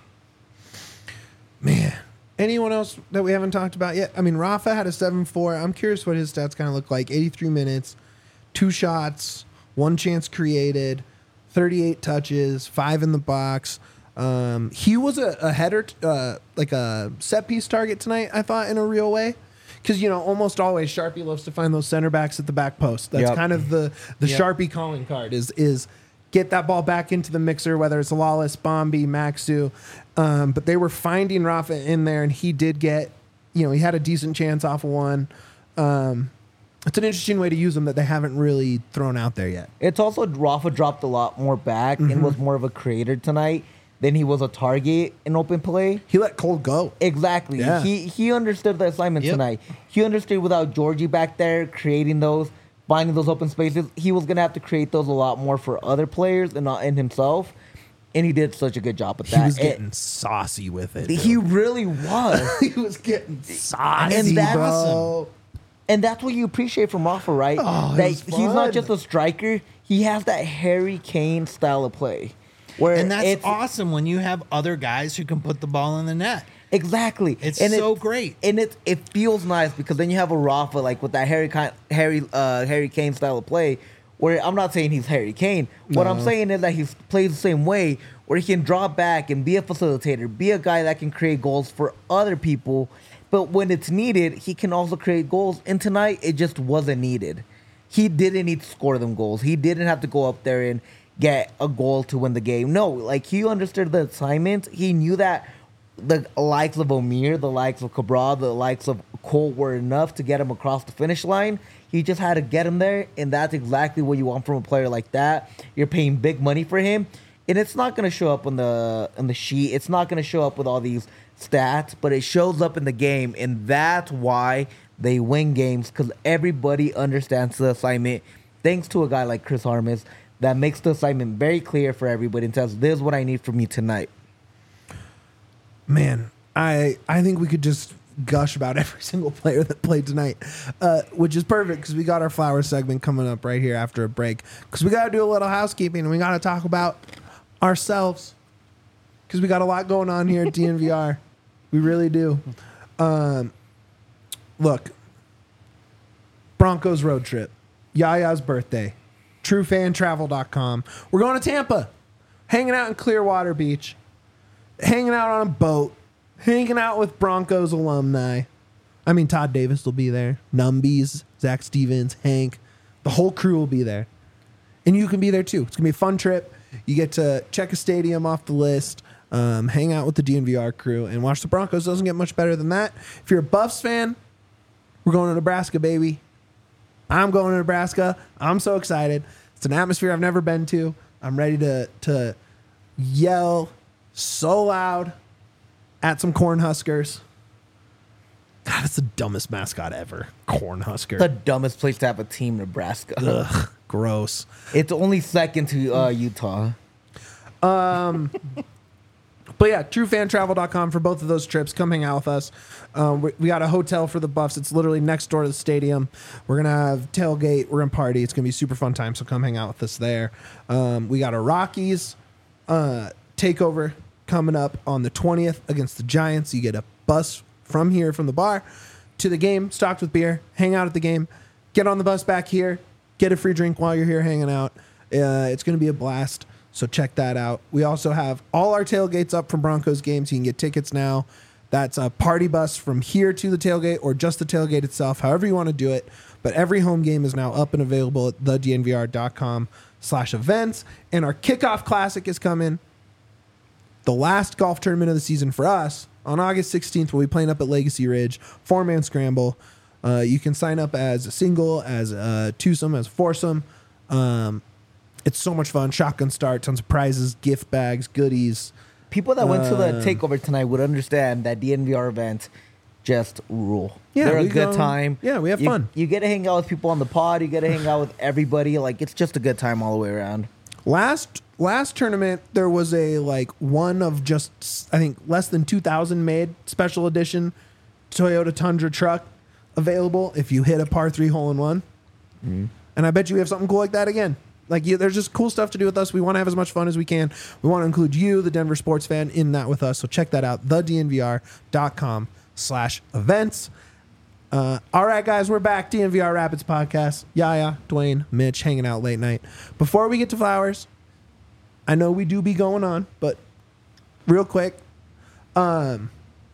Man, anyone else that we haven't talked about yet? I mean, Rafa had a seven four. I'm curious what his stats kind of look like. eighty-three minutes, two shots, one chance created, thirty-eight touches, five in the box. Um, he was a, a header, uh, like a set piece target tonight, I thought, in a real way. Because, you know, almost always Sharpie loves to find those center backs at the back post. That's Yep. kind of the, the Yep. Sharpie calling card is is get that ball back into the mixer, whether it's Lawless, Bombi, Maxu. Um, but they were finding Rafa in there, and he did get, you know, he had a decent chance off of one. Um, it's an interesting way to use them that they haven't really thrown out there yet. It's also Rafa dropped a lot more back and was more of a creator tonight than he was a target in open play. He let Cole go. Exactly. Yeah. He he understood the assignment Yep. tonight. He understood without Georgie back there creating those, finding those open spaces, he was gonna have to create those a lot more for other players and not in himself. And he did such a good job with He that. was It- getting saucy with it. he dude. really was. he was getting saucy, And that's bro. And that's what you appreciate from Rafa, right? Oh, it that was he's fun. not just a striker. He has that Harry Kane style of play. Where And that's it's, awesome when you have other guys who can put the ball in the net. Exactly. It's and so it, great. And it it feels nice because then you have a Rafa like with that Harry Ki- Harry uh, Harry Kane style of play. Where I'm not saying he's Harry Kane. What I'm No. saying is that he plays the same way, where he can draw back and be a facilitator, be a guy that can create goals for other people. But when it's needed, he can also create goals. And tonight, it just wasn't needed. He didn't need to score them goals. He didn't have to go up there and get a goal to win the game. No, like he understood the assignment. He knew that the likes of Omir, the likes of Cabral, the likes of Cole were enough to get him across the finish line. He just had to get him there, and that's exactly what you want from a player like that. You're paying big money for him, and it's not going to show up on the on the sheet. It's not going to show up with all these stats, but it shows up in the game, and that's why they win games, because everybody understands the assignment. Thanks to a guy like Chris Harmis that makes the assignment very clear for everybody and tells, this is what I need from you tonight. Man, I I think we could just gush about every single player that played tonight, uh, which is perfect because we got our flower segment coming up right here after a break. Because we got to do a little housekeeping and we got to talk about ourselves because we got a lot going on here at D N V R. We really do. Um, look, Broncos road trip, Yaya's birthday, true fan travel dot com. We're going to Tampa, hanging out in Clearwater Beach, hanging out on a boat, hanging out with Broncos alumni. I mean, Todd Davis will be there. Numbies, Zach Stevens, Hank. The whole crew will be there. And you can be there too. It's going to be a fun trip. You get to check a stadium off the list, um, hang out with the D N V R crew, and watch the Broncos. Doesn't get much better than that. If you're a Buffs fan, we're going to Nebraska, baby. I'm going to Nebraska. I'm so excited. It's an atmosphere I've never been to. I'm ready to to yell so loud at some Cornhuskers. God, that's the dumbest mascot ever. Cornhusker. The dumbest place to have a team, Nebraska. Ugh, gross. It's only second to uh, Utah. But yeah, true fan travel dot com for both of those trips. Come hang out with us. Um, we, we got a hotel for the Buffs. It's literally next door to the stadium. We're going to have tailgate. We're going to party. It's going to be a super fun time, so come hang out with us there. Um, we got a Rockies uh, takeover coming up on the twentieth against the Giants. You get a bus from here, from the bar, to the game, stocked with beer, hang out at the game, get on the bus back here, get a free drink while you're here hanging out. Uh, it's going to be a blast. So check that out. We also have all our tailgates up from Broncos games. You can get tickets now. That's a party bus from here to the tailgate or just the tailgate itself, however you want to do it. But every home game is now up and available at the d n v r dot com slash events. And our kickoff classic is coming. The last golf tournament of the season for us on August sixteenth. We'll be playing up at Legacy Ridge, four-man scramble. Uh, you can sign up as a single, as a twosome, as a foursome. Um, It's so much fun. Shotgun start, tons of prizes, gift bags, goodies. People that went to the Um, takeover tonight would understand that D N V R events just rule. Yeah, They're a we good go- time. yeah, we have You- fun. You get to hang out with people on the pod. You get to hang out with everybody. Like, it's just a good time all the way around. Last last tournament, there was a like one of just I think less than two thousand made special edition Toyota Tundra truck available if you hit a par three hole in one. Mm-hmm. And I bet you we have something cool like that again. Like you, there's just cool stuff to do with us. We want to have as much fun as we can. We want to include you, the Denver sports fan, in that with us. So check that out, the d n v r dot com slash events. Uh, all right, guys, we're back. D N V R Rapids podcast. Yaya, Dwayne, Mitch, hanging out late night. Before we get to flowers, I know we do be going on, but real quick, um,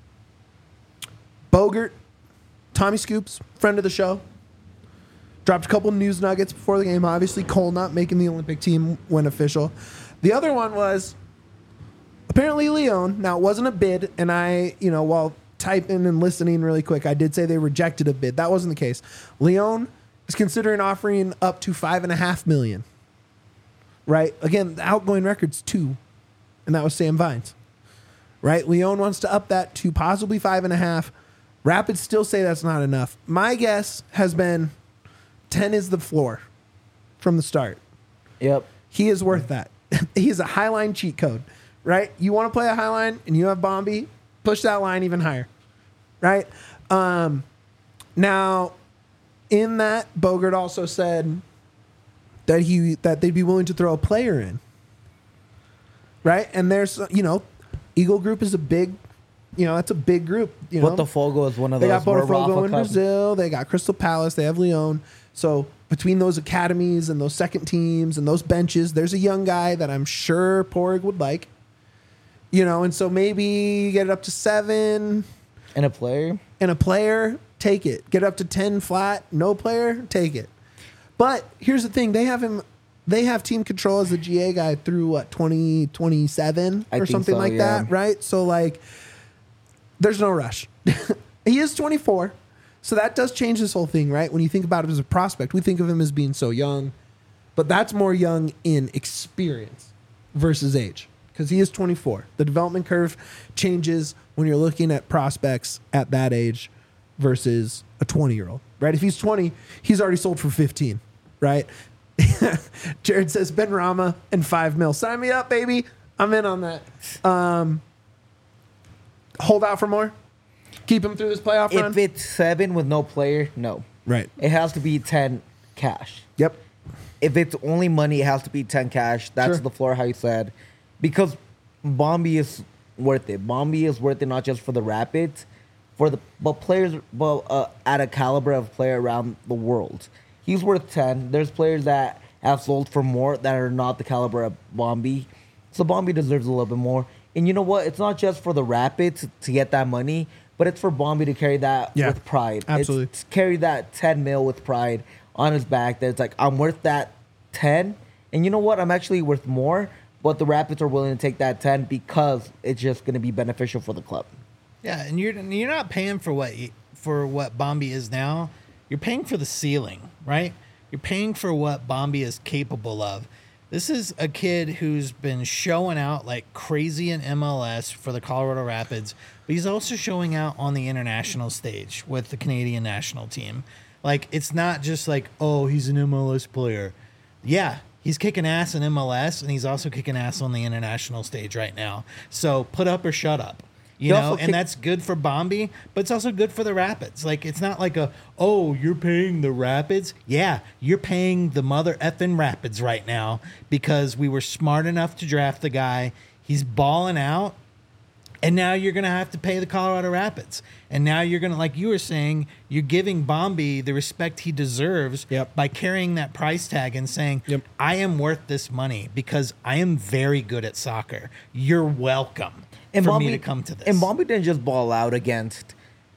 Bogert, Tommy Scoops, friend of the show, dropped a couple news nuggets before the game. Obviously, Cole not making the Olympic team when official. The other one was apparently Leon. Now, it wasn't a bid, and I, you know, while typing and listening really quick, I did say they rejected a bid. That wasn't the case. Leon is considering offering up to five and a half million. Right? Again, the outgoing record's two, and that was Sam Vines. Right? Leon wants to up that to possibly five and a half. Rapids still say that's not enough. My guess has been ten is the floor from the start. Yep. He is worth that. He is a high line cheat code, right? You want to play a high line and you have Bombi, push that line even higher, right? Um, now, in that, Bogert also said that he that they'd be willing to throw a player in, right? And there's, you know, Eagle Group is a big, you know, that's a big group. You know, Botafogo is one of they those. got where Botafogo Rafa in Cup- Brazil. They got Crystal Palace. They have Leon. So between those academies and those second teams and those benches, there's a young guy that I'm sure Porig would like. You know, and so maybe you get it up to seven And a player. and a player, take it. Get up to ten flat, no player, take it. But here's the thing: they have him. They have team control as the G A guy through what twenty twenty-seven I or think something so, like yeah. that, right? So like, there's no rush. He is twenty-four, so that does change this whole thing, right? When you think about him as a prospect, we think of him as being so young, but that's more young in experience versus age because he is twenty-four. The development curve changes when you're looking at prospects at that age versus a twenty-year-old, right? If he's twenty, he's already sold for fifteen, right? Jared says Ben Rama and five mil. Sign me up, baby. I'm in on that. Um, hold out for more. Keep him through this playoff run. If it's seven with no player, no. Right. It has to be ten cash. Yep. If it's only money, it has to be ten cash. That's Sure. the floor, how you said. Because Bombi is worth it. Bombi is worth it not just for the Rapids, for the but players but uh, at a caliber of player around the world. He's worth ten. There's players that have sold for more that are not the caliber of Bombi. So Bombi deserves a little bit more. And you know what? It's not just for the Rapids to get that money, but it's for Bombi to carry that Yeah, with pride. absolutely. It's to carry that ten mil with pride on his back. That it's like, I'm worth that ten. And you know what? I'm actually worth more. But the Rapids are willing to take that ten because it's just going to be beneficial for the club. Yeah, and you're you're not paying for what you, for what Bombi is now. You're paying for the ceiling, right? You're paying for what Bombi is capable of. This is a kid who's been showing out like crazy in M L S for the Colorado Rapids, but he's also showing out on the international stage with the Canadian national team. Like, it's not just like, oh, he's an M L S player. Yeah, He's kicking ass in M L S, and he's also kicking ass on the international stage right now. So put up or shut up. You He know, also and kick- that's good for Bombi, but it's also good for the Rapids. Like, it's not like a, oh, you're paying the Rapids. Yeah, you're paying the mother effing Rapids right now because we were smart enough to draft the guy. He's balling out. And now you're going to have to pay the Colorado Rapids. And now you're going to, like you were saying, you're giving Bombi the respect he deserves Yep. by carrying that price tag and saying, Yep. I am worth this money because I am very good at soccer. You're welcome And for Bombi, me to come to this. And Bombi didn't just ball out against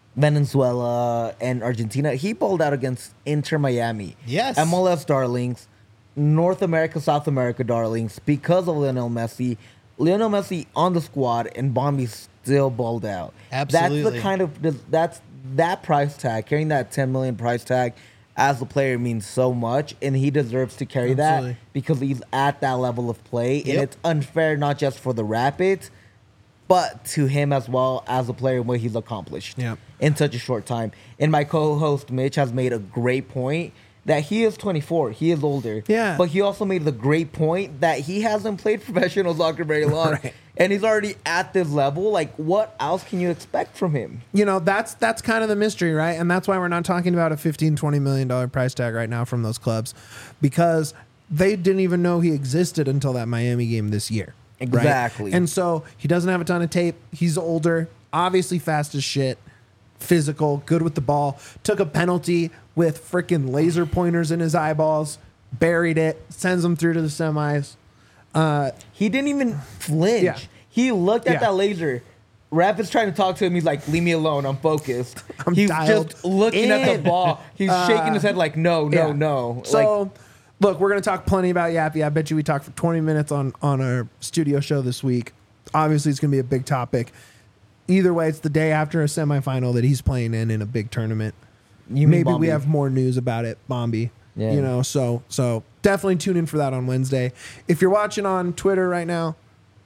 Venezuela and Argentina. He balled out against Inter Miami. Yes. M L S darlings, North America, South America darlings, because of Lionel Messi. Lionel Messi on the squad, and Bombi still balled out. That's Absolutely. the kind of that's that price tag. Carrying that ten million price tag as a player means so much, and he deserves to carry Absolutely. that because he's at that level of play, and Yep. it's unfair not just for the Rapids, but to him as well as a player what he's accomplished Yep. in such a short time. And my co-host Mitch has made a great point that he is twenty-four. He is older. Yeah. But he also made the great point that he hasn't played professional soccer very long. Right. And he's already at this level. Like, what else can you expect from him? You know, that's that's kind of the mystery, right? And that's why we're not talking about a fifteen, twenty million dollar price tag right now from those clubs, because they didn't even know he existed until that Miami game this year. right? Exactly. And so he doesn't have a ton of tape. He's older, obviously fast as shit, physical, good with the ball. Took a penalty with freaking laser pointers in his eyeballs, buried it, sends him through to the semis. Uh, He didn't even flinch. Yeah. He looked at Yeah. that laser. Rapid's trying to talk to him. He's like, leave me alone. I'm focused. I'm He's dialed just looking at in. the ball. He's shaking his head like, no, no, Yeah. no. So, like, look, we're going to talk plenty about Yappy. I bet you we talked for twenty minutes on, on our studio show this week. Obviously, it's going to be a big topic. Either way, it's the day after a semifinal that he's playing in in a big tournament. you mean Maybe we Bombi. have more news about it, Bombi. Yeah. You know, so so definitely tune in for that on Wednesday. If you're watching on Twitter right now,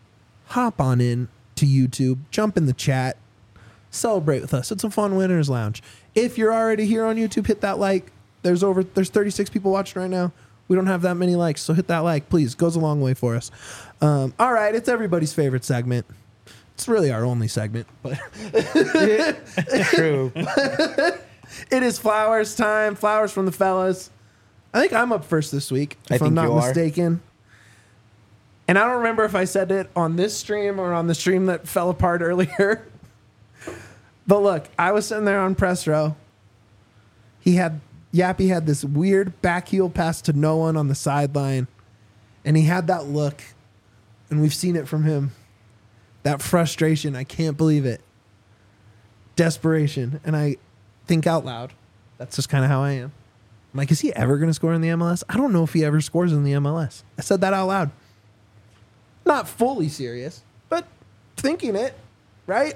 hop on in to YouTube, jump in the chat, celebrate with us. It's a fun winners lounge. If you're already here on YouTube, hit that like. There's over there's thirty-six people watching right now. We don't have that many likes, so hit that like, please. Goes a long way for us. Um, all right, it's everybody's favorite segment. It's really our only segment, but True. it is flowers time. Flowers from the fellas. I think I'm up first this week, I if I'm think not you are. mistaken. And I don't remember if I said it on this stream or on the stream that fell apart earlier. But look, I was sitting there on press row. He had Yappy had this weird back heel pass to no one on the sideline, and he had that look, and we've seen it from him. That frustration, I can't believe it. Desperation, and I think out loud. That's just kind of how I am. I'm like, is he ever going to score in the M L S? I don't know if he ever scores in the M L S. I said that out loud. Not fully serious, but thinking it, right?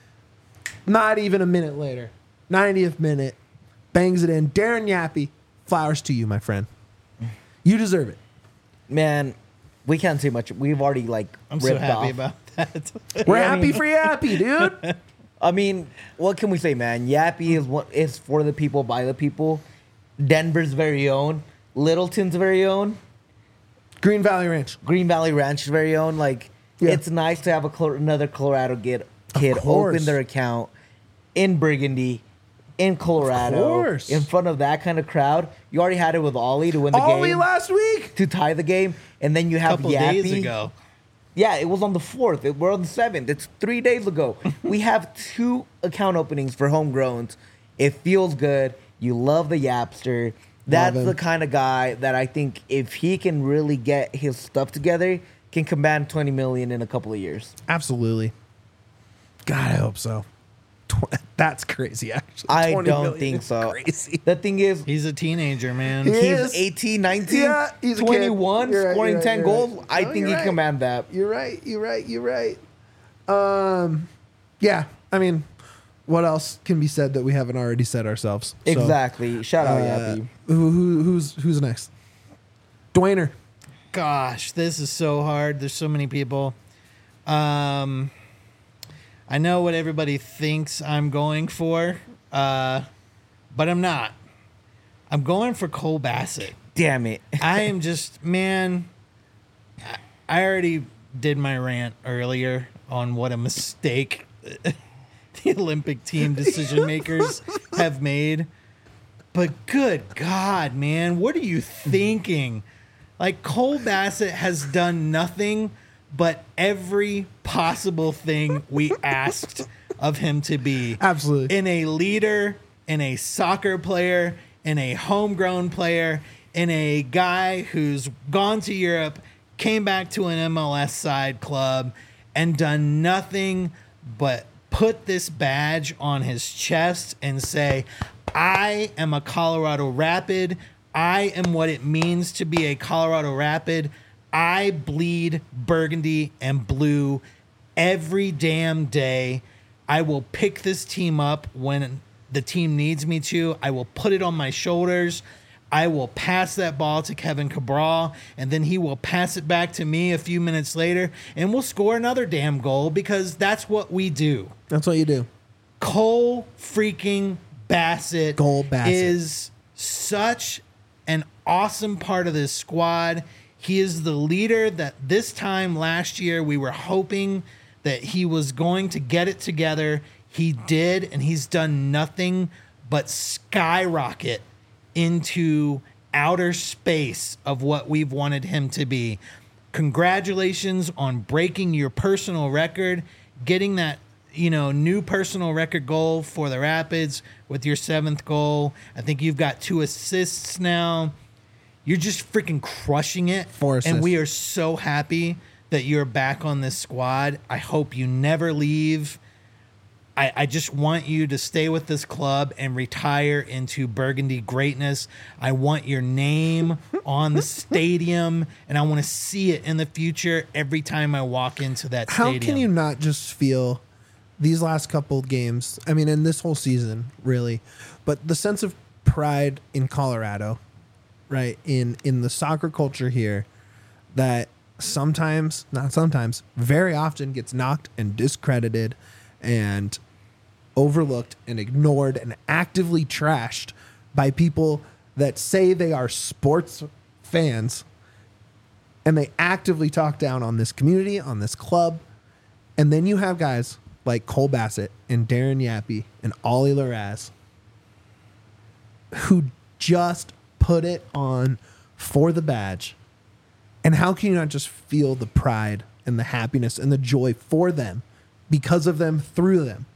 Not even a minute later, ninetieth minute, bangs it in. Darren Yappy, flowers to you, my friend. You deserve it. Man, we can't say much. We've already, like, I'm ripped so happy off. about that. We're Yeah, I happy mean- for Yappy, dude. I mean, what can we say, man? Yappy is what is for the people, by the people. Denver's very own. Littleton's very own. Green Valley Ranch. Green Valley Ranch's very own. Like, Yeah. it's nice to have a Col- another Colorado kid, kid course. open their account in Burgundy, in Colorado, course. in front of that kind of crowd. You already had it with Ollie to win the Ollie game, last week. to tie the game, and then you A have couple Yappy. days ago. Yeah, it was on the fourth. It- We're on the seventh. It's three days ago. We have two account openings for homegrowns. It feels good. You love the Yapster. That's him. the kind of guy that I think if he can really get his stuff together, can command twenty million in a couple of years. Absolutely. God, I hope so. Tw- That's crazy, actually. I twenty don't million think is so. Crazy. The thing is, He's a teenager, man. He he's is. eighteen, nineteen, Yeah, he's a kid. twenty-one, You're right, scoring you're right, ten you're goals. right. I No, think you're he right. can command that. You're right. You're right. You're right. Um, yeah. I mean, what else can be said that we haven't already said ourselves? So, Exactly. Shout out, uh, Yappy. who, who, who's who's next? Dwayner. Gosh, this is so hard. There's so many people. Um, I know what everybody thinks I'm going for, uh, but I'm not. I'm going for Cole Bassett damn it. I am just, man, I- I already did my rant earlier on what a mistake the Olympic team decision makers have made. But good God, man, what are you thinking? Like, Cole Bassett has done nothing but every possible thing we asked of him to be. Absolutely. In a leader, in a soccer player, in a homegrown player, in a guy who's gone to Europe, came back to an M L S side club, and done nothing but put this badge on his chest and say, I am a Colorado Rapid. I am what it means to be a Colorado Rapid. I bleed burgundy and blue every damn day. I will pick this team up when the team needs me to. I will put it on my shoulders. I will pass that ball to Kevin Cabral, and then he will pass it back to me a few minutes later, and we'll score another damn goal because that's what we do. That's what you do. Cole freaking Bassett, Cole Bassett is such an awesome part of this squad. He is the leader that this time last year we were hoping that he was going to get it together. He did, and he's done nothing but skyrocket into outer space of what we've wanted him to be. Congratulations on breaking your personal record, getting that, you know, new personal record goal for the Rapids with your seventh goal. I think you've got two assists now. You're just freaking crushing it. Four assists. And we are so happy that you're back on this squad. I hope you never leave. I, I just want you to stay with this club and retire into Burgundy greatness. I want your name on the stadium, and I want to see it in the future every time I walk into that How stadium. can you not just feel these last couple games? I mean, in this whole season, really, but the sense of pride in Colorado, right? In in the soccer culture here, that sometimes, not sometimes, very often gets knocked and discredited and overlooked and ignored and actively trashed by people that say they are sports fans, and they actively talk down on this community, on this club. And then you have guys like Cole Bassett and Darren Yappy and Ollie Laraz who just put it on for the badge. And how can you not just feel the pride and the happiness and the joy for them, because of them, through them?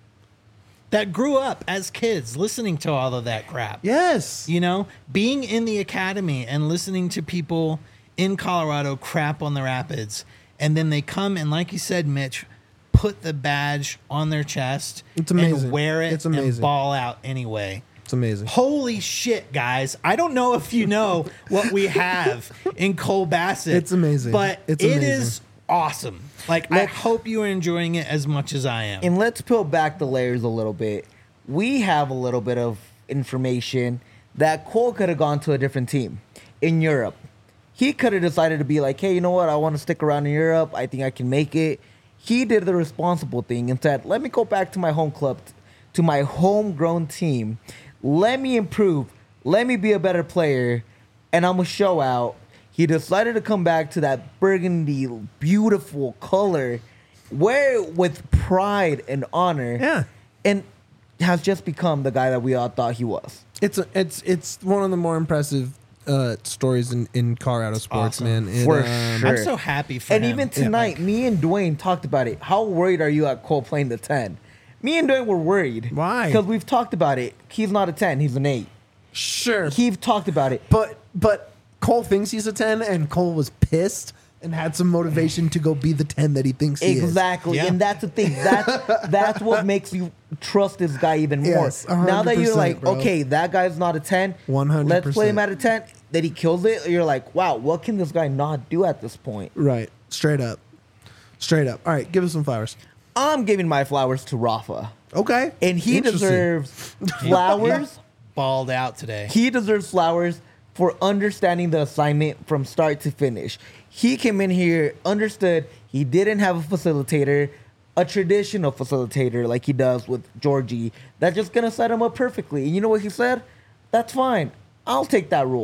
that grew up as kids listening to all of that crap. Yes. You know, being in the academy and listening to people in Colorado crap on the Rapids. And then they come and, like you said, Mitch, put the badge on their chest It's amazing. and wear it It's and amazing. ball out anyway. It's amazing. Holy shit, guys. I don't know if you know what we have in Cole Bassett. It's amazing. But It's it amazing. is awesome. Like, I Let's- hope you are enjoying it as much as I am. And let's peel back the layers a little bit. We have a little bit of information that Cole could have gone to a different team in Europe. He could have decided to be like, hey, you know what? I want to stick around in Europe. I think I can make it. He did the responsible thing and said, let me go back to my home club, to my homegrown team. Let me improve. Let me be a better player. And I'm going to show out. He decided to come back to that burgundy, beautiful color, wear it with pride and honor. Yeah. And has just become the guy that we all thought he was. It's a, it's it's one of the more impressive uh, stories in, in Colorado sports, awesome. man. It, For um, sure. I'm so happy for And him. even tonight, me and Dwayne talked about it. How worried are you at Cole playing the ten? Me and Dwayne were worried. Why? Because we've talked about it. He's not a ten, he's an eight. Sure. He've talked about it. But but Cole thinks he's a ten, and Cole was pissed and had some motivation to go be the ten that he thinks he is. Exactly. Yeah. And that's the thing. That's that's what makes you trust this guy even more. Yes, one hundred now that you're percent, like, bro. okay, that guy's not a ten. one hundred Let's play him percent. at a ten. That he kills it. You're like, wow, what can this guy not do at this point? Right. Straight up. Straight up. All right, give us some flowers. I'm giving my flowers to Rafa. Okay. And he Interesting. deserves flowers. balled out today. He deserves flowers for understanding the assignment from start to finish. He came in here, understood he didn't have a facilitator, a traditional facilitator like he does with Georgie, that's just going to set him up perfectly. And you know what he said? That's fine. I'll take that role.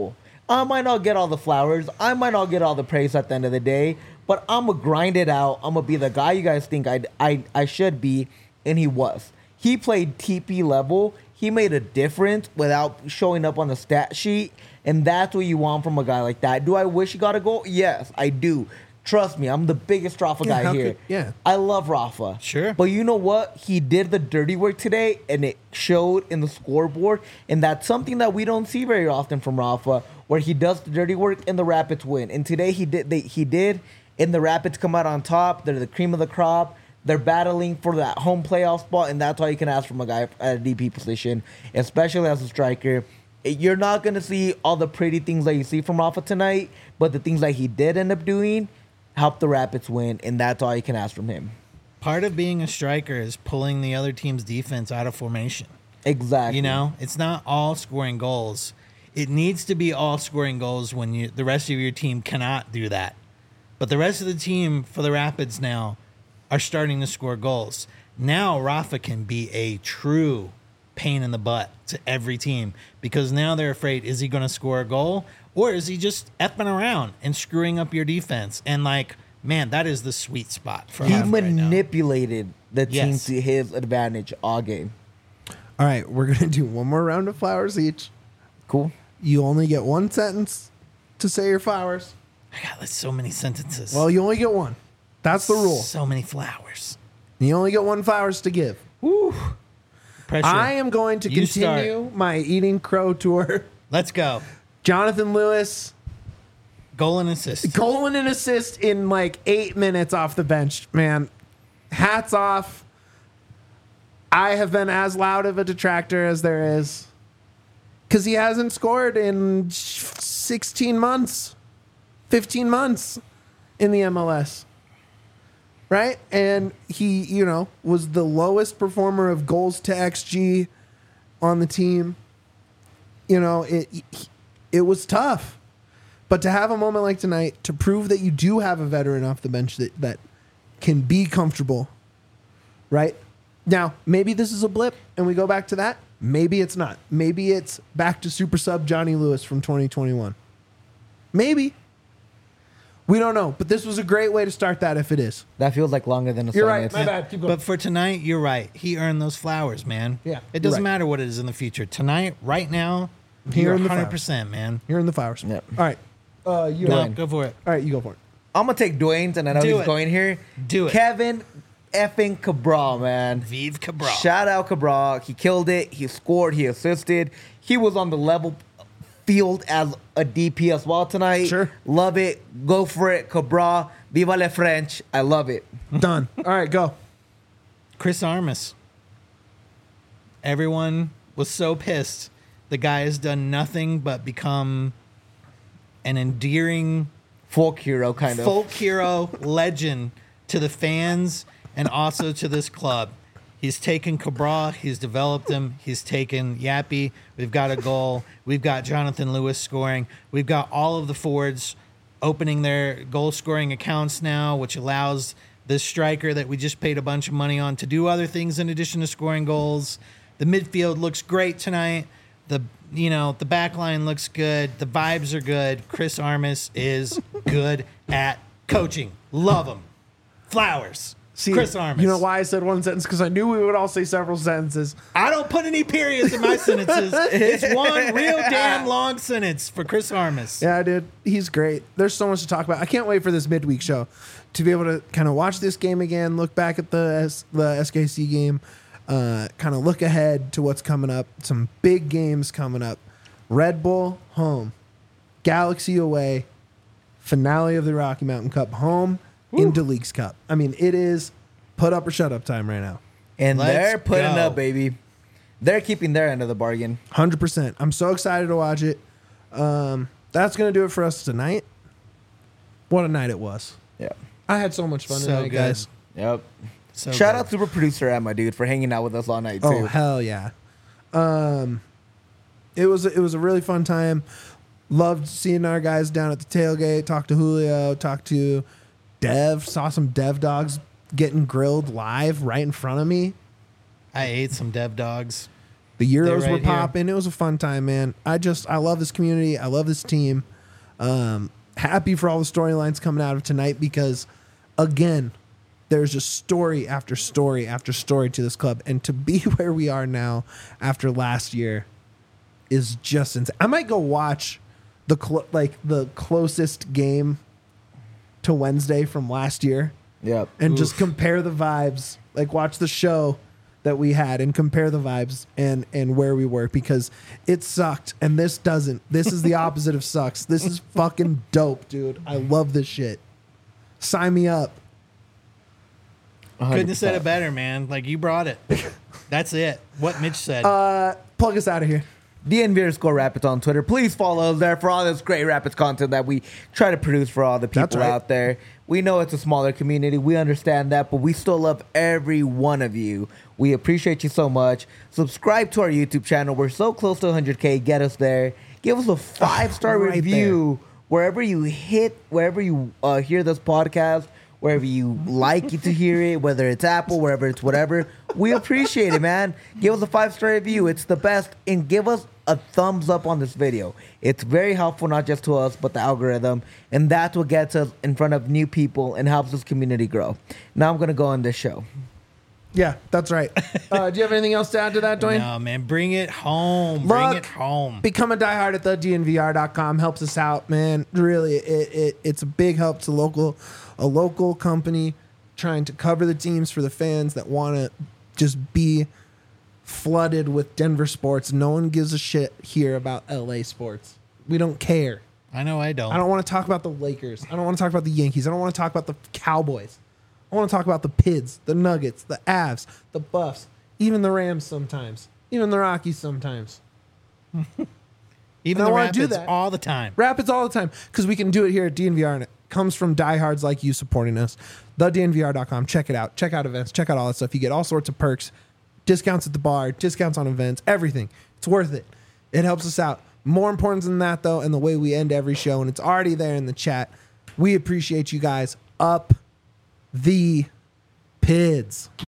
I might not get all the flowers. I might not get all the praise at the end of the day, but I'm going to grind it out. I'm going to be the guy you guys think I, I, I should be, and he was. He played T P level. He made a difference without showing up on the stat sheet, and that's what you want from a guy like that. Do I wish he got a goal? Yes, I do. Trust me, I'm the biggest Rafa Yeah, guy how here. could- yeah. I love Rafa. Sure. But you know what? He did the dirty work today, and it showed in the scoreboard, and that's something that we don't see very often from Rafa, where he does the dirty work and the Rapids win. And today he did, they, he did, and the Rapids come out on top. They're the cream of the crop. They're battling for that home playoff spot, and that's all you can ask from a guy at a D P position, especially as a striker. You're not going to see all the pretty things that you see from Rafa tonight, but the things that he did end up doing helped the Rapids win, and that's all you can ask from him. Part of being a striker is pulling the other team's defense out of formation. Exactly. You know, it's not all scoring goals. It needs to be all scoring goals when you the rest of your team cannot do that. But the rest of the team for the Rapids now are starting to score goals. Now Rafa can be a true pain in the butt to every team because now they're afraid, is he going to score a goal or is he just effing around and screwing up your defense? And like, man, that is the sweet spot for He Rafa right now. manipulated the team Yes. to his advantage all game. All right, we're gonna do one more round of flowers each. Cool. You only get one sentence to say your flowers. I got like so many sentences. Well, you only get one. That's the rule. So many flowers. You only get one flowers to give. Pressure. I am going to You continue my eating crow tour. Let's go. Jonathan Lewis, Goal and assist. goal and an assist in like eight minutes off the bench. Man, hats off. I have been as loud of a detractor as there is because he hasn't scored in sixteen months, fifteen months in the M L S. Right? And he, you know, was the lowest performer of goals to X G on the team. You know, it it was tough. But to have a moment like tonight, to prove that you do have a veteran off the bench that, that can be comfortable, right? Now, maybe this is a blip and we go back to that. Maybe it's not. Maybe it's back to super sub Johnny Lewis from twenty twenty-one. Maybe. We don't know. But this was a great way to start that if it is. That feels like longer than a You're right. sentence. My bad. Keep going. But for tonight, you're right. He earned those flowers, man. Yeah, It you're doesn't right. matter what it is in the future. Tonight, right now, He you're earned the one hundred percent, man. Here in the flowers. Yep. All right. Uh, you No, All go for it. right, you go for it. I'm going to take Dwayne's, and I know Do he's it. going here. Do it. Kevin effing Cabral, man. Vive Cabral. Shout out Cabral. He killed it. He scored. He assisted. He was on the level field as a D P as well tonight. Sure. Love it. Go for it, Cabral. Viva le French. I love it. Done. All right, go. Chris Armas. Everyone was so pissed. The guy has done nothing but become an endearing Folk hero, kind of. folk hero legend to the fans and also to this club. He's taken Cabral, he's developed him, he's taken Yappy. We've got a goal. We've got Jonathan Lewis scoring. We've got all of the forwards opening their goal scoring accounts now, which allows this striker that we just paid a bunch of money on to do other things in addition to scoring goals. The midfield looks great tonight. The you know, the back line looks good. The vibes are good. Chris Armas is good at coaching. Love him. Flowers. See, Chris Armas. You know why I said one sentence? Because I knew we would all say several sentences. I don't put any periods in my sentences. It's one real damn long sentence for Chris Armas. Yeah, dude. He's great. There's so much to talk about. I can't wait for this midweek show to be able to kind of watch this game again, look back at the S- the S K C game, uh, kind of look ahead to what's coming up. Some big games coming up. Red Bull home, Galaxy away, finale of the Rocky Mountain Cup home into Leagues Cup. I mean, it is put up or shut up time right now. And Let's they're putting go. up, baby. They're keeping their end of the bargain. one hundred percent. I'm so excited to watch it. Um, that's going to do it for us tonight. What a night it was. Yeah. I had so much fun So tonight, good. guys. Yep. So Shout good. out super producer Emma, dude, for hanging out with us all night too. Oh, hell yeah. Um, it was it was a really fun time. Loved seeing our guys down at the tailgate. Talked to Julio. Talked to Dev. Saw some Dev dogs getting grilled live right in front of me. I ate some dev dogs. The Euros right were here. popping. It was a fun time, man. I just I love this community. I love this team. Um, happy for all the storylines coming out of tonight because, again, there's just story after story after story to this club, and to be where we are now after last year is just insane. I might go watch the clo- like the closest game to Wednesday from last year. Yep. And just compare the vibes, like watch the show that we had and compare the vibes and and where we were, because it sucked and this doesn't. This is the opposite of sucks. This is fucking dope, dude. I love this shit. Sign me up. Couldn't have said it better, man. Like, you brought it. That's it. What Mitch said. Uh, plug us out of here. D N V underscore Rapids on Twitter. Please follow us there for all this great Rapids content that we try to produce for all the That's people right. out there. We know it's a smaller community. We understand that, but we still love every one of you. We appreciate you so much. Subscribe to our YouTube channel. We're so close to one hundred K. Get us there. Give us a five-star right review wherever you hit, wherever you uh, hear this podcast, wherever you like it to hear it, whether it's Apple, wherever it's whatever. We appreciate it, man. Give us a five-star review. It's the best. And give us a thumbs up on this video. It's very helpful, not just to us, but the algorithm. And that's what gets us in front of new people and helps this community grow. Now I'm going to go on this show. Yeah, that's right. Uh, do you have anything else to add to that, Dwayne? No, man. Bring it home. Bring Look, it home. Become a diehard at the D N V R dot com. Helps us out, man. Really, it, it it's a big help to local a local company trying to cover the teams for the fans that want to just be flooded with Denver sports. No one gives a shit here about L A sports. We don't care. I know I don't. I don't want to talk about the Lakers. I don't want to talk about the Yankees. I don't want to talk about the Cowboys. I want to talk about the Pids, the Nuggets, the Avs, the Buffs, even the Rams sometimes, even the Rockies sometimes. Even I the wanna do Rapids that. all the time. Rapids all the time, because we can do it here at D N V R, and it comes from diehards like you supporting us. the D N V R dot com. Check it out. Check out events. Check out all that stuff. You get all sorts of perks, discounts at the bar, discounts on events, everything. It's worth it. It helps us out. More important than that, though, and the way we end every show, and it's already there in the chat, we appreciate you guys. Up the Pids.